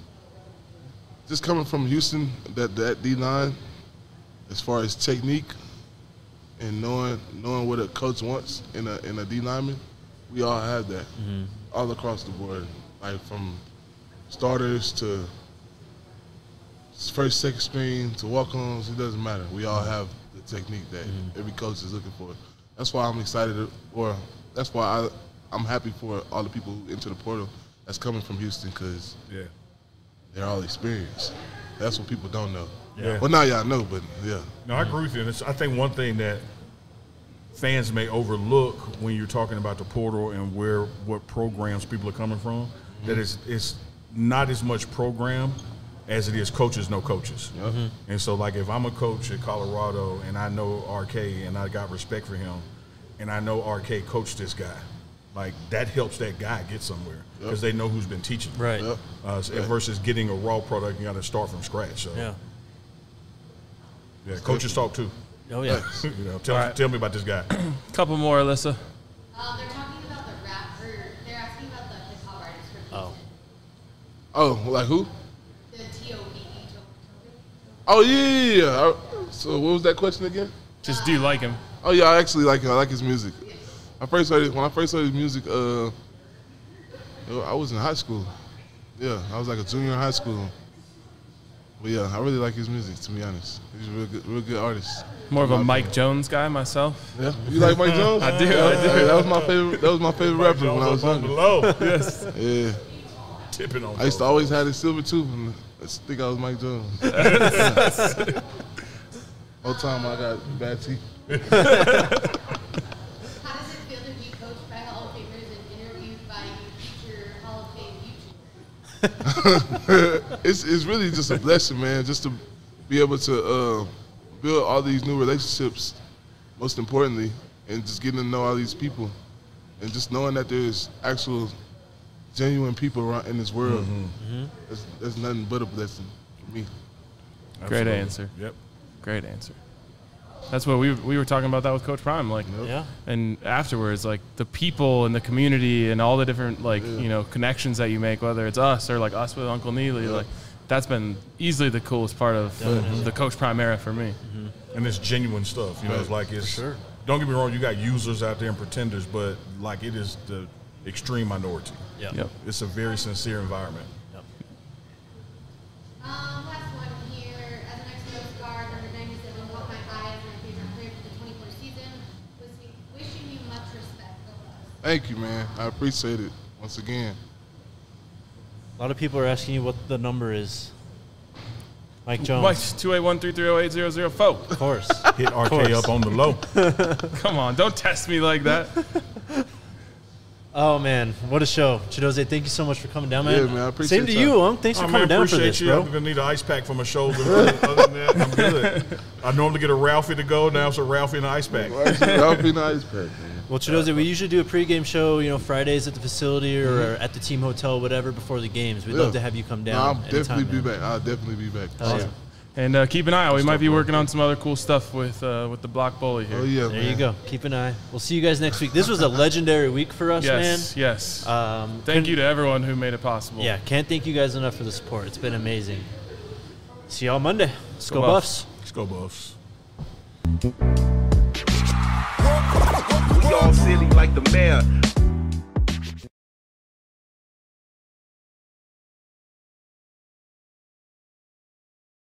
just coming from Houston, that that D line, as far as technique and knowing knowing what a coach wants in a in a D lineman, we all have that all across the board, like from starters to first, second string to walk-ons. It doesn't matter. We all have the technique that every coach is looking for. That's why I'm excited, to, or that's why I I'm happy for all the people who enter the portal that's coming from Houston because Yeah. they're all experienced. That's what people don't know. Yeah. Well, now y'all know, but yeah. No, I agree with you. And it's, I think one thing that fans may overlook when you're talking about the portal and where what programs people are coming from, mm-hmm. that it's, it's not as much program as it is coaches know coaches. Yep. Mm-hmm. And so, like, if I'm a coach at Colorado and I know R K and I got respect for him and I know R K coached this guy, like, that helps that guy get somewhere because yep. they know who's been teaching. Right. Yep. Uh, so, versus getting a raw product, you got to start from scratch. So, Yeah. yeah, coaches talk too. Oh, yeah. you know, tell, right. tell me about this guy. Couple more, Alyssa. Um, they're talking about the rap, or they're asking about the hip hop artist for Oh. Oh, like who? the T O P E. Oh, yeah, yeah, yeah. I, so what was that question again? Just do you like him? Oh, yeah, I actually like him. I like his music. I first heard it, when I first heard his music, uh, I was in high school. Yeah, I was like a junior in high school. But yeah, I really like his music, to be honest. He's a real good, real good artist. More of a Mike Jones guy myself. Yeah, you like Mike Jones? I do, Yeah, I do. hey, that was my favorite. That was my favorite rapper when I was on younger. below. Yes. Yeah, Tipping on. I used to always have this silver tooth and I used to think I was Mike Jones. Whole time I got bad teeth. How does it feel to be coached by Hall of Famers and interviewed by future Hall of Fame YouTubers? it's it's really just a blessing, man. Just to be able to uh, build all these new relationships, most importantly, and just getting to know all these people, and just knowing that there's actual, genuine people around in this world. Mm-hmm. That's, that's nothing but a blessing for me. Absolutely. Great answer. Yep. Great answer. That's what we we were talking about that with Coach Prime, like, Yeah. and afterwards, like the people and the community and all the different like Yeah. you know connections that you make, whether it's us or like us with Uncle Neely, Yeah. like that's been easily the coolest part of Definitely. the Coach Prime era for me. And it's genuine stuff. You know, it's like it's. sure. Don't get me wrong. You got users out there and pretenders, but like it is the extreme minority. Yeah. Yep. It's a very sincere environment. Um, last one here. As an ex-Coast Guard, number ninety-seven caught my eye as my favorite player for the twenty-four season. Wishing, wishing you much respect. Go Bucks. Thank you, man. I appreciate it once again. A lot of people are asking you what the number is. Mike Jones. Mike, two eight one three three zero eight zero zero four. Of course. Hit R K course. up on the low. Come on, don't test me like that. Oh, man. What a show. Chidoze, thank you so much for coming down, man. Yeah, man, I appreciate Same to y'all. you, Unc. Thanks Oh, for man, coming down for appreciate this, you. bro. I'm gonna need an ice pack for my shoulder. Other than that, I'm good. I normally get a Ralphie to go. Now it's a Ralphie and an ice pack. That'll be nice, man. Well, Chidoze, we usually do a pregame show, you know, Fridays at the facility or Mm-hmm. at the team hotel, whatever, before the games. We'd Yeah. love to have you come No, down. I'll anytime, definitely be man. back. I'll definitely be back. Hell yeah. And uh, keep an eye out. We might be Stuff working on some other cool stuff with uh, with the Block Bully here. Oh yeah, There man. you go. Keep an eye. We'll see you guys next week. This was a legendary week for us, Yes, yes. man. Um, Thank you to everyone who made it possible. Yeah, can't thank you guys enough for the support. It's been amazing. See y'all Monday. Let's go, Go Buffs. Let's go, Buffs. We all silly like the mayor.